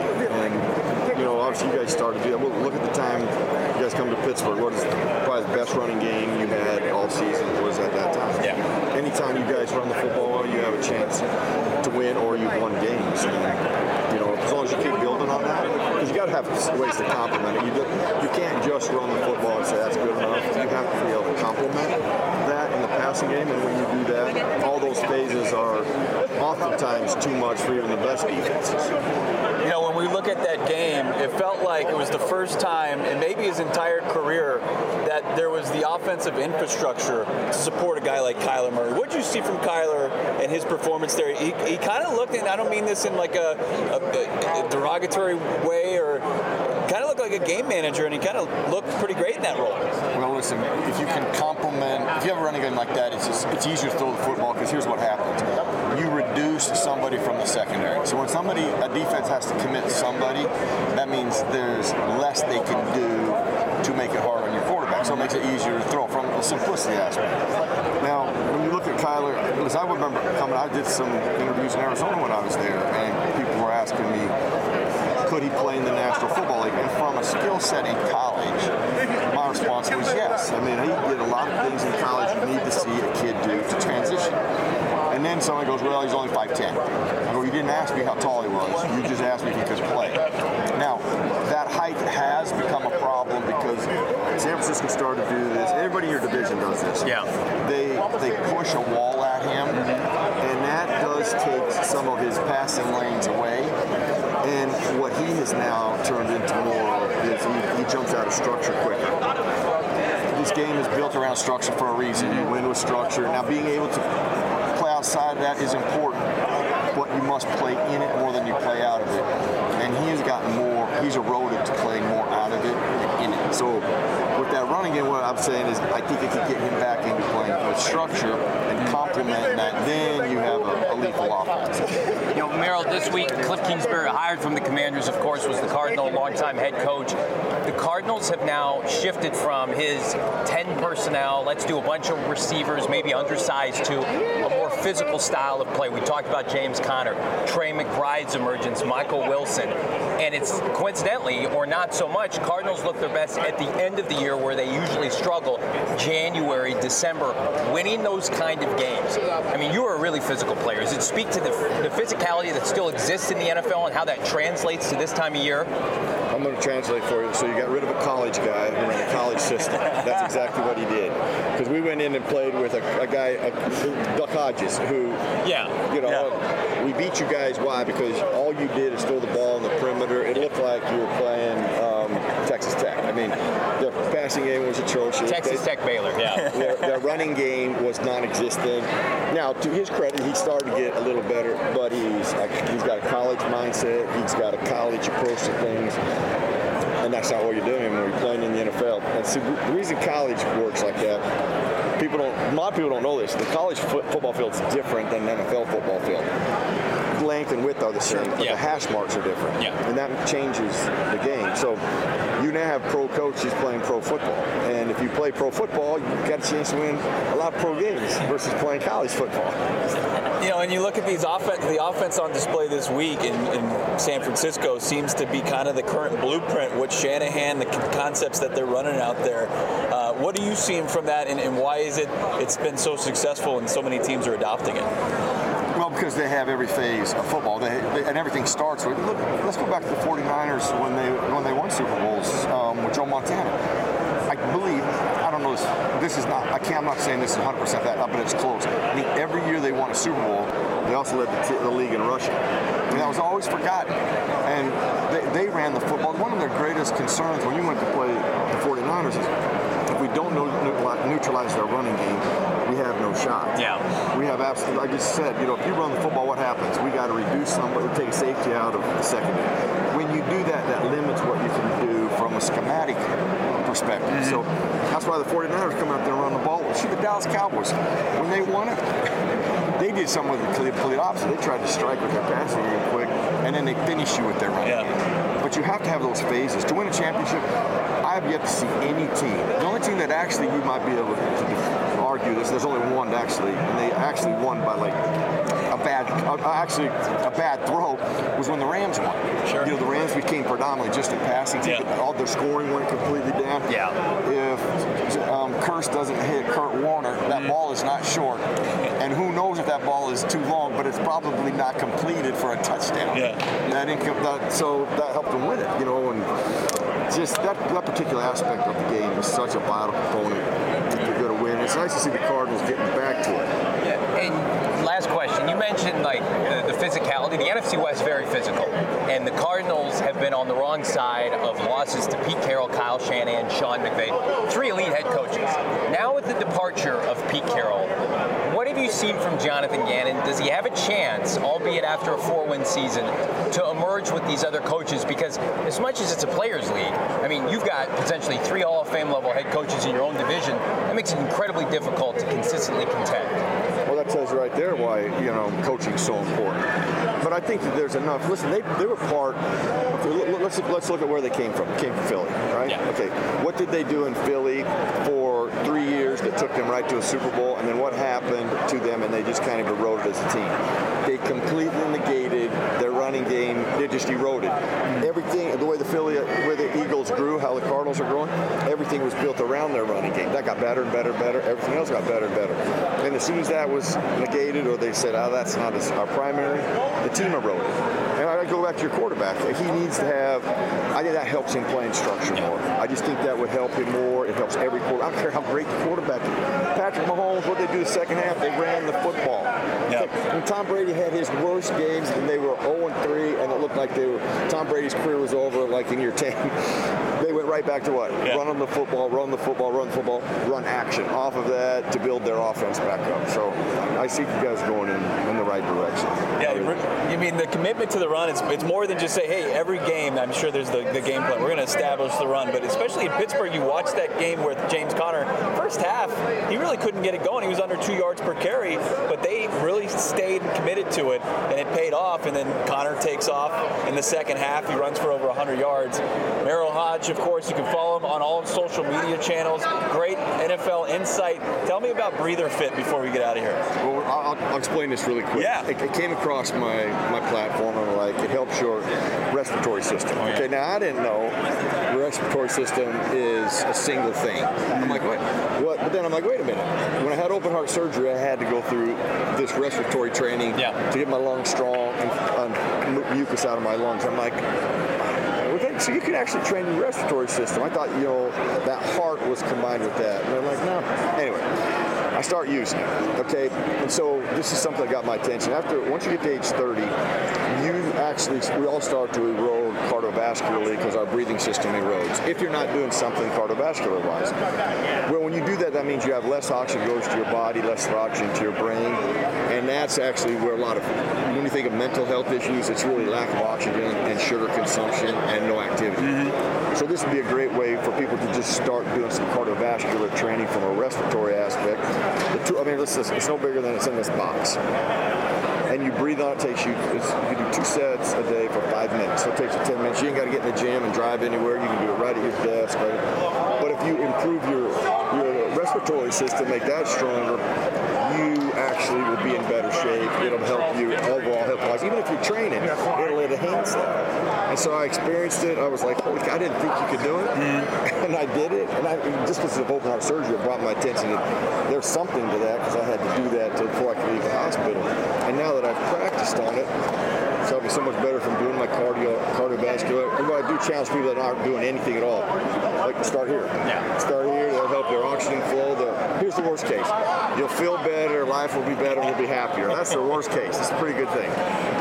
And you know, obviously, you guys started to do that. Well, look at the time you guys come to Pittsburgh. What is probably the best running game you had all season was at that time. Yeah. Anytime you guys run the football well, you have a chance to win, or you've won games. And, you know, as long as you keep building on that, because you got to have ways to complement it. You, do, you can't just run the football and say that's good enough. You have to be able to complement that in the passing game, and when you do that, all those phases are oftentimes too much for even the best defenses. You know, when we look at that game, it felt like it was the first time, and maybe his entire career, that there was the offensive infrastructure to support a guy like Kyler Murray. What did you see from Kyler and his performance there? He, he kind of looked, and I don't mean this in like a, a, a derogatory way, or kind of looked like a game manager, and he kind of looked pretty great in that role. Well, listen, if you can complement, if you have a running game like that, it's just, it's easier to throw the football, because here's what happens. You reduce somebody from the secondary. So when somebody, a defense has to commit somebody, that means there's less they can do to make it hard on your quarterback. So it makes it easier to throw from the simplicity aspect. Now, when you look at Kyler, because I remember coming, I did some interviews in Arizona when I was there, and people were asking me, could he play in the National Football League? And from a skill set in college, my response was yes. I mean, he did a lot of things in college you need to see a kid do to transition. And then somebody goes, well, he's only five ten. I go, you didn't ask me how tall he was. You just asked me if he could play. Now, that height has become a problem because San Francisco started to do this. Everybody in your division does this. Yeah. They they push a wall at him, and that does take some of his passing lanes away. And what he has now turned into more of is he, he jumps out of structure quicker. This game is built around structure for a reason. You win with structure. Now, being able to play outside of that is important, but you must play in it more than you play out of it. And he has gotten more, he's eroded to playing more out of it than in it. So with that running game, what I'm saying is I think it could get him back into playing with structure and complementing that. Then you have a, a lethal offense. You know, Merril, this week, Cliff Kingsbury, hired from the Commanders, of course, was the Cardinal longtime head coach. The Cardinals have now shifted from his ten personnel, let's do a bunch of receivers, maybe undersized, to a more physical style of play. We talked about James Conner, Trey McBride's emergence, Michael Wilson. And it's coincidentally, or not so much, Cardinals look their best at the end of the year where they usually struggle, January, December, winning those kind of games. I mean, you are a really physical player. Does it speak to the, the physicality that still exists in the N F L and how that translates to this time of year? I'm going to translate for you. So you got rid of a college guy who ran a college system. That's exactly what he did. Because we went in and played with a, a guy, a, Duck Hodges, who, yeah, you know, yeah. we beat you guys. Why? Because all you did is throw the ball in the perimeter. It looked like you were playing um, Texas Tech. I mean, their passing game was atrocious. Texas they, Tech Baylor, yeah. Their, their running game was non-existent. Now, to his credit, he started to get a little better, but he's like, he's got a college mindset. He's got a college approach to things. And that's not what you're doing when you're playing in the N F L. And see, the reason college works like that, people don't, a lot of people don't know this. The college foot, football field is different than the N F L football field. Length and width are the same, but yeah. the hash marks are different. Yeah. And that changes the game. So you now have pro coaches playing pro football. And if you play pro football, you've got a chance to win a lot of pro games versus playing college football. You know, and you look at these offense, the offense on display this week in, in San Francisco seems to be kind of the current blueprint, what Shanahan, the concepts that they're running out there. Uh, what are you seeing from that, and, and why is it it's been so successful and so many teams are adopting it? Well, because they have every phase of football, they, they, and everything starts with. Look, let's go back to the forty-niners when they when they won Super Bowls um, with Joe Montana. I believe, I don't know, this, this is not, I can't, I'm not saying this is one hundred percent that, but it's close. I think every year they won a Super Bowl, they also led the, t- the league in rushing. And that was always forgotten. And they, they ran the football. One of their greatest concerns when you went to play the forty-niners is if we don't know, neutralize their running game, we have no shot. Yeah. We have absolutely, like I just said, you know, if you run the football, what happens? We got to reduce somebody, take a safety out of the secondary. When you do that, that limits what you can do from a schematic perspective. Mm-hmm. So that's why the forty-niners come out there and run the ball. See the Dallas Cowboys, when they won it, they did something with the complete opposite. They tried to strike with their passing game quick, and then they finish you with their running yeah. game. But you have to have those phases. To win a championship, I have yet to see any team. The only team that actually you might be able to argue this, there's only one actually, and they actually won by like a bad, uh, actually a bad throw was when the Rams won. Sure. You know, the Rams became predominantly just a passing team. Yeah. All their scoring went completely down. Yeah. If um, Kearse doesn't hit Kurt Warner, that mm. ball is not short. And who knows if that ball is too long, but it's probably not completed for a touchdown. Yeah. That income, that, so that helped them win it, you know, and just that, that particular aspect of the game is such a vital component to go to win. It's nice to see the Cardinals getting back to it. Yeah. And last question, you mentioned like the, the physicality. The N F C West is very physical, and the Cardinals have been on the wrong side of losses to Pete Carroll, Kyle Shanahan, Sean McVay, three elite head coaches. Now with the departure of Pete Carroll, what have you seen from Jonathan Gannon? Does he have a chance, albeit after a four-win season, to emerge with these other coaches? Because as much as it's a players' league, I mean, you've got potentially three Hall of Fame level head coaches in your own division. That makes it incredibly difficult to consistently contend. Well, that tells you right there why, you know, coaching is so important. But I think that there's enough. Listen, they, they were part. Okay, let's let's look at where they came from. They came from Philly, right? Yeah. Okay. What did they do in Philly for three years that took them right to a Super Bowl? And then what happened to them? And they just kind of eroded as a team. They completely negated their running game. They just eroded everything. The way the Philly, where the Eagles grew, how the Cardinals are growing, everything was built around their running game. That got better and better and better. Everything else got better and better. And as soon as that was negated, or they said, "Oh, that's not our primary," the team eroded. And I go back to your quarterback. He needs to have, I think that helps him play in structure more. I just think that would help him more. It helps every quarterback. I don't care how great the quarterback is. Patrick Mahomes, what they do the second half, they ran the football. Yep. When Tom Brady had his worst games and they were oh and three and it looked like they were, Tom Brady's career was over like in year ten, they went right back to what? Yeah. Run on the football, run the football, run the football, run action off of that to build their offense back up. So I see you guys going in, in the right direction. Yeah, you mean the commitment to the run, it's, it's more than just say, hey, every game, I'm sure there's the, the game plan. We're going to establish the run. But especially in Pittsburgh, you watch that game with James Conner. First half, he really couldn't get it going. He was under two yards per carry, but they really stayed committed to it, and it paid off. And then Conner takes off in the second half. He runs for over one hundred yards. Merrill Hodge, of course, you can follow him on all social media channels. Great N F L insight. Tell me about Breather Fit before we get out of here. Well, I'll, I'll explain this really quick. Yeah. It, it came across my, my platform, and like it helps your respiratory system. Oh, yeah. Okay, now I didn't know the respiratory system is a single thing. I'm like, what? What? But then I'm like, wait a minute. When I had open heart surgery, I had to go through this respiratory training yeah. to get my lungs strong and um, mucus out of my lungs. I'm like, okay, so you can actually train your respiratory system. I thought, you know, that heart was combined with that. And I'm like, no. Anyway, I start using it, okay? And so this is something that got my attention. After, once you get to age thirty, you actually, we all start to erode cardiovascularly because our breathing system erodes. If you're not doing something cardiovascular-wise. Well, when you do that, that means you have less oxygen goes to your body, less oxygen to your brain. And that's actually where a lot of, when you think of mental health issues, it's really lack of oxygen and sugar consumption and no activity. Mm-hmm. So this would be a great way for people to just start doing some cardiovascular training from a respiratory aspect. The two, I mean, this is, it's no bigger than it's in this box. And you breathe on it, takes you, it's, you can do two sets a day for five minutes. So it takes you ten minutes. You ain't got to get in the gym and drive anywhere. You can do it right at your desk. Right? But if you improve your, your respiratory system, make that stronger, you actually will be in better shape. It'll help you overall health-wise. Even if you're training, it'll enhance that. And so I experienced it. I was like, holy cow, I didn't think you could do it. Mm. And I did it. And I, just because of open heart surgery, it brought my attention that there's something to that because I had to do that to, before I could leave the hospital. And now that that I've practiced on it. So I'll be so much better from doing my cardio, cardiovascular. But I do challenge people that aren't doing anything at all. Like, start here. Yeah. Start here. That'll help their oxygen flow. The, here's the worst case. You'll feel better. Life will be better. You'll be happier. That's the worst case. It's a pretty good thing.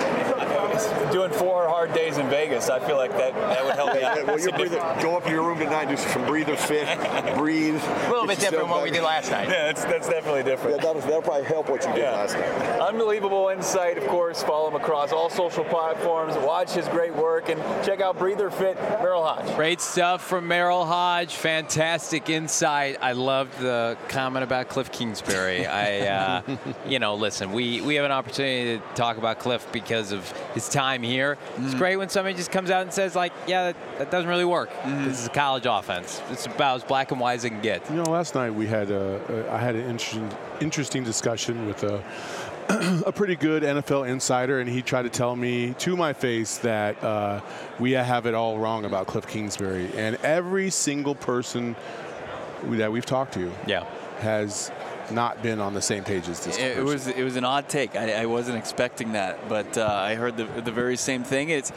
Doing four hard days in Vegas, I feel like that, that would help me out. Well, you breathe, go up to your room tonight, do some breather fit, breathe. A little bit different from what we did last night. Yeah, that's, that's definitely different. Yeah, that'll, that'll probably help what you did yeah. last night. Unbelievable insight, of course. Follow him across all social platforms. Watch his great work and check out Breather Fit, Merril Hoge. Great stuff from Merril Hoge. Fantastic insight. I loved the comment about Cliff Kingsbury. I, uh, you know, listen, we, we have an opportunity to talk about Cliff because of his time here. Mm. It's great when somebody just comes out and says, like, yeah, that, that doesn't really work. Mm. This is a college offense. It's about as black and white as it can get. You know, last night we had a, a I had an interesting interesting discussion with a a pretty good N F L insider, and he tried to tell me to my face that uh, we have it all wrong about Cliff Kingsbury, and every single person that we've talked to, yeah, has not been on the same page as this. It, it was it was an odd take. I, I wasn't expecting that, but uh, I heard the the very same thing. It's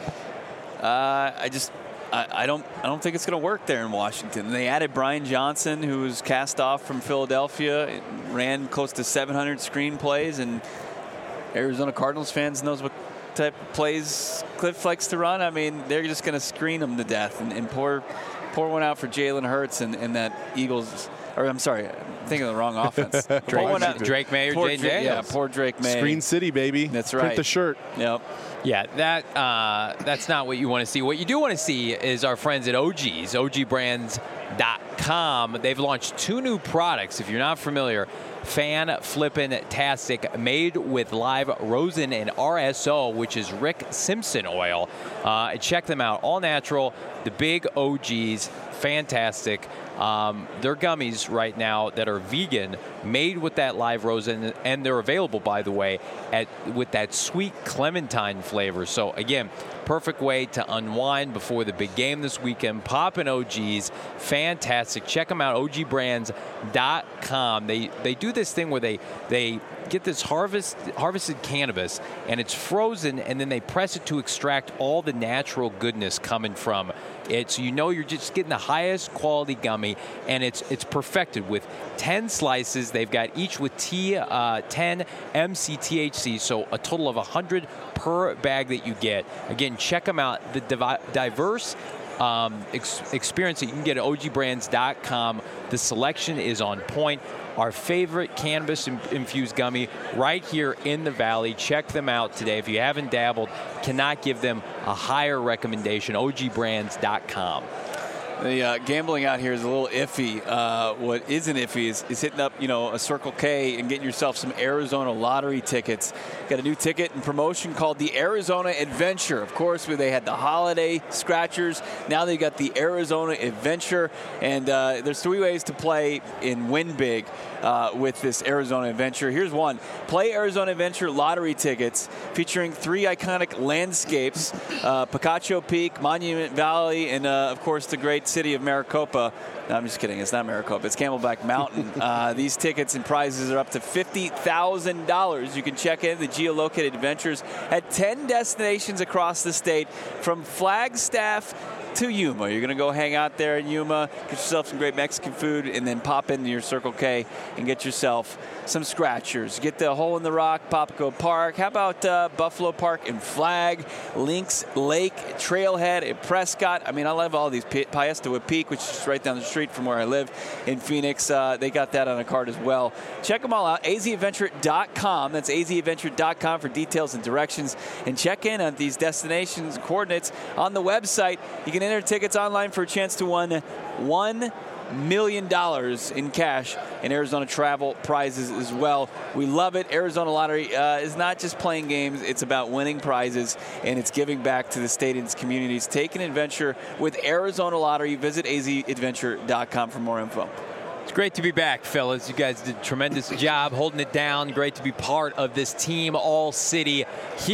uh, I just I, I don't I don't think it's going to work there in Washington. They added Brian Johnson, who was cast off from Philadelphia, ran close to seven hundred screen plays, and Arizona Cardinals fans knows what type of plays Cliff likes to run. I mean, they're just going to screen him to death and, and pour pour one out for Jalen Hurts and, and that Eagles. Or I'm sorry, I'm thinking of the wrong offense. Drake, Drake May or Jay Daniels. Yeah, poor Drake May. Screen City, baby. That's right. Print the shirt. Yep. Yeah, that uh, that's not what you want to see. What you do want to see is our friends at O G's, O G brands dot com. They've launched two new products. If you're not familiar, Fan Flippin' Tastic, made with live rosin and R S O, which is Rick Simpson oil. Uh, check them out. All natural, the big O Gs, fantastic. Um, they're gummies right now that are vegan, made with that live rosin, and they're available, by the way, at with that sweet clementine flavor. So again, perfect way to unwind before the big game this weekend. Pop in O Gs, fantastic. Check them out, O G brands dot com. They they do this thing where they they get this harvest harvested cannabis, and it's frozen, and then they press it to extract all the natural goodness coming from it. So you know you're just getting the highest quality gummy, and it's it's perfected with ten slices. They've got each with T, uh, ten M C T H C, so a total of one hundred per bag that you get. Again, check them out. The divi- diverse um, ex- experience that you can get at O G brands dot com. The selection is on point. Our favorite cannabis-infused gummy right here in the Valley. Check them out today. If you haven't dabbled, cannot give them a higher recommendation. O G brands dot com. The uh, gambling out here is a little iffy. Uh, what isn't iffy is, is hitting up, you know, a Circle K and getting yourself some Arizona lottery tickets. Got a new ticket and promotion called the Arizona Adventure. Of course, where they had the holiday scratchers. Now they got the Arizona Adventure, and uh, there's three ways to play and win big uh, with this Arizona Adventure. Here's one: play Arizona Adventure lottery tickets featuring three iconic landscapes: uh, Picacho Peak, Monument Valley, and uh, of course the great city of Maricopa. No, I'm just kidding. It's not Maricopa. It's Camelback Mountain. uh, these tickets and prizes are up to fifty thousand dollars. You can check in the geolocated adventures at ten destinations across the state, from Flagstaff to Yuma. You're going to go hang out there in Yuma, get yourself some great Mexican food, and then pop into your Circle K and get yourself some scratchers. Get the Hole in the Rock, Papago Park. How about uh, Buffalo Park and Flag, Lynx Lake, Trailhead at Prescott? I mean, I love all these. P- Piestewa Peak, which is right down the street from where I live in Phoenix. Uh, they got that on a card as well. Check them all out, A Z adventure dot com. That's A Z adventure dot com for details and directions. And check in on these destinations, coordinates on the website. You can enter tickets online for a chance to win one million dollars in cash and Arizona travel prizes as well. We love it. Arizona Lottery uh, is not just playing games. It's about winning prizes, and it's giving back to the state and its communities. Take an adventure with Arizona Lottery. Visit A Z adventure dot com for more info. It's great to be back, fellas. You guys did a tremendous job holding it down. Great to be part of this team all city here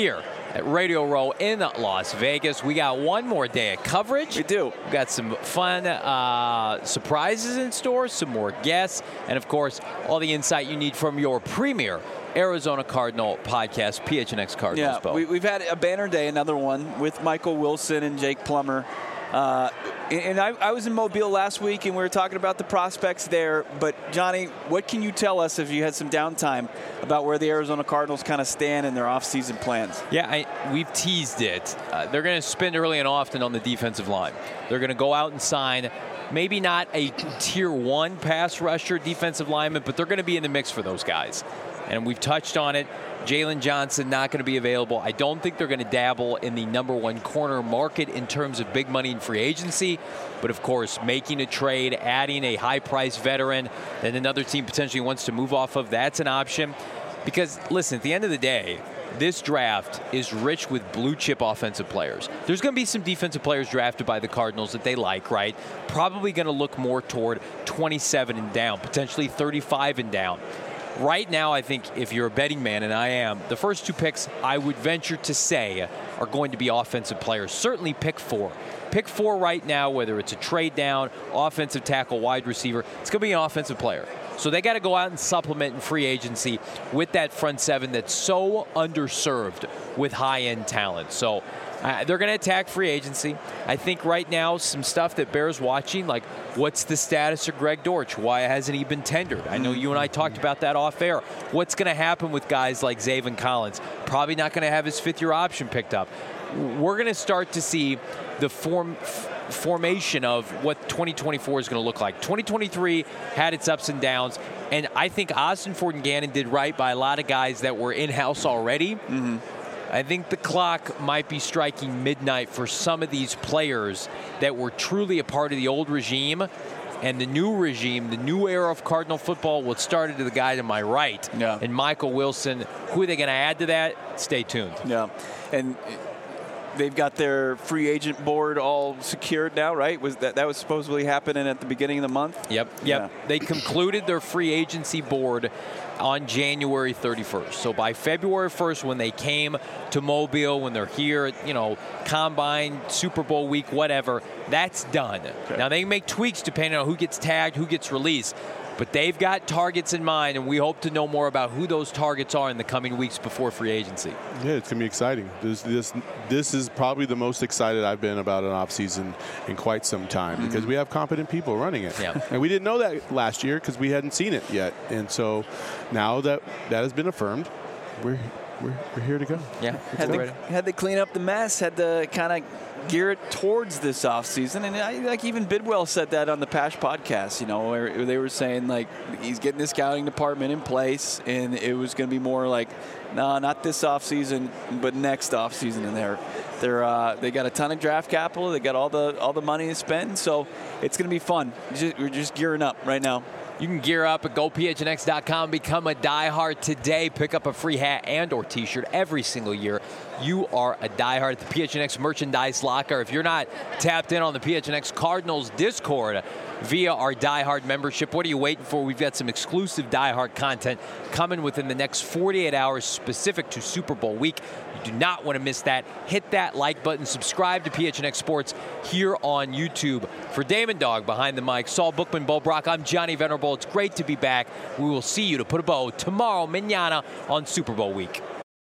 at Radio Row in Las Vegas. We got one more day of coverage. We do. We've got some fun uh, surprises in store, some more guests, and, of course, all the insight you need from your premier Arizona Cardinal podcast, P H N X Cardinals. Yeah, we, we've had a banner day, another one, with Michael Wilson and Jake Plummer. Uh, and I, I was in Mobile last week, and we were talking about the prospects there. But, Johnny, what can you tell us if you had some downtime about where the Arizona Cardinals kind of stand in their offseason plans? Yeah, I, we've teased it. Uh, they're going to spend early and often on the defensive line. They're going to go out and sign maybe not a tier one pass rusher defensive lineman, but they're going to be in the mix for those guys. And we've touched on it. Jalen Johnson not going to be available. I don't think they're going to dabble in the number one corner market in terms of big money in free agency. But, of course, making a trade, adding a high-priced veteran that another team potentially wants to move off of, that's an option. Because, listen, at the end of the day, this draft is rich with blue-chip offensive players. There's going to be some defensive players drafted by the Cardinals that they like, right? Probably going to look more toward twenty-seven and down, potentially thirty-five and down. Right now, I think if you're a betting man, and I am, the first two picks I would venture to say are going to be offensive players. Certainly pick four. Pick four right now, whether it's a trade down, offensive tackle, wide receiver, it's going to be an offensive player. So they got to go out and supplement in free agency with that front seven that's so underserved with high-end talent. So uh, they're going to attack free agency. I think right now some stuff that bears watching, like what's the status of Greg Dortch? Why hasn't he been tendered? I know you and I talked about that off air. What's going to happen with guys like Zaven Collins? Probably not going to have his fifth-year option picked up. We're going to start to see the form formation of what twenty twenty-four is going to look like. twenty twenty-three had its ups and downs, and I think Austin Ford and Gannon did right by a lot of guys that were in-house already. Mm-hmm. I think the clock might be striking midnight for some of these players that were truly a part of the old regime. And the new regime, the new era of Cardinal football, will start to the guy to my right. Yeah. And Michael Wilson. Who are they going to add to that? Stay tuned. Yeah. And they've got their free agent board all secured now, right? Was that that was supposedly happening at the beginning of the month? Yep. Yep. Yeah. They concluded their free agency board on January thirty-first. So by February first, when they came to Mobile, when they're here, you know, Combine, Super Bowl week, whatever, that's done. Okay. Now, they make tweaks depending on who gets tagged, who gets released. But they've got targets in mind, and we hope to know more about who those targets are in the coming weeks before free agency. Yeah, it's going to be exciting. This this this is probably the most excited I've been about an offseason in quite some time mm-hmm. because we have competent people running it. Yeah. And we didn't know that last year because we hadn't seen it yet. And so now that that has been affirmed, we're we're, we're here to go. Yeah. Had to, had to clean up the mess, had to kind of gear it towards this offseason. And I, like even Bidwell said that on the Pash podcast, you know, where they were saying, like, he's getting the scouting department in place, and it was going to be more like, no, nah, not this offseason, but next offseason. And they're, they're, uh, they got a ton of draft capital. They got all the all the money to spend. So it's going to be fun. Just, we're just gearing up right now. You can gear up at go P H N X dot com. Become a diehard today. Pick up a free hat and or T-shirt every single year. You are a diehard at the P H N X merchandise locker. If you're not tapped in on the P H N X Cardinals Discord via our diehard membership, what are you waiting for? We've got some exclusive diehard content coming within the next forty-eight hours specific to Super Bowl week. You do not want to miss that. Hit that like button. Subscribe to P H N X Sports here on YouTube. For Damon Dog behind the mic, Saul Bookman, Bo Brock, I'm Johnny Venerable. It's great to be back. We will see you to put a bow tomorrow, mañana, on Super Bowl week.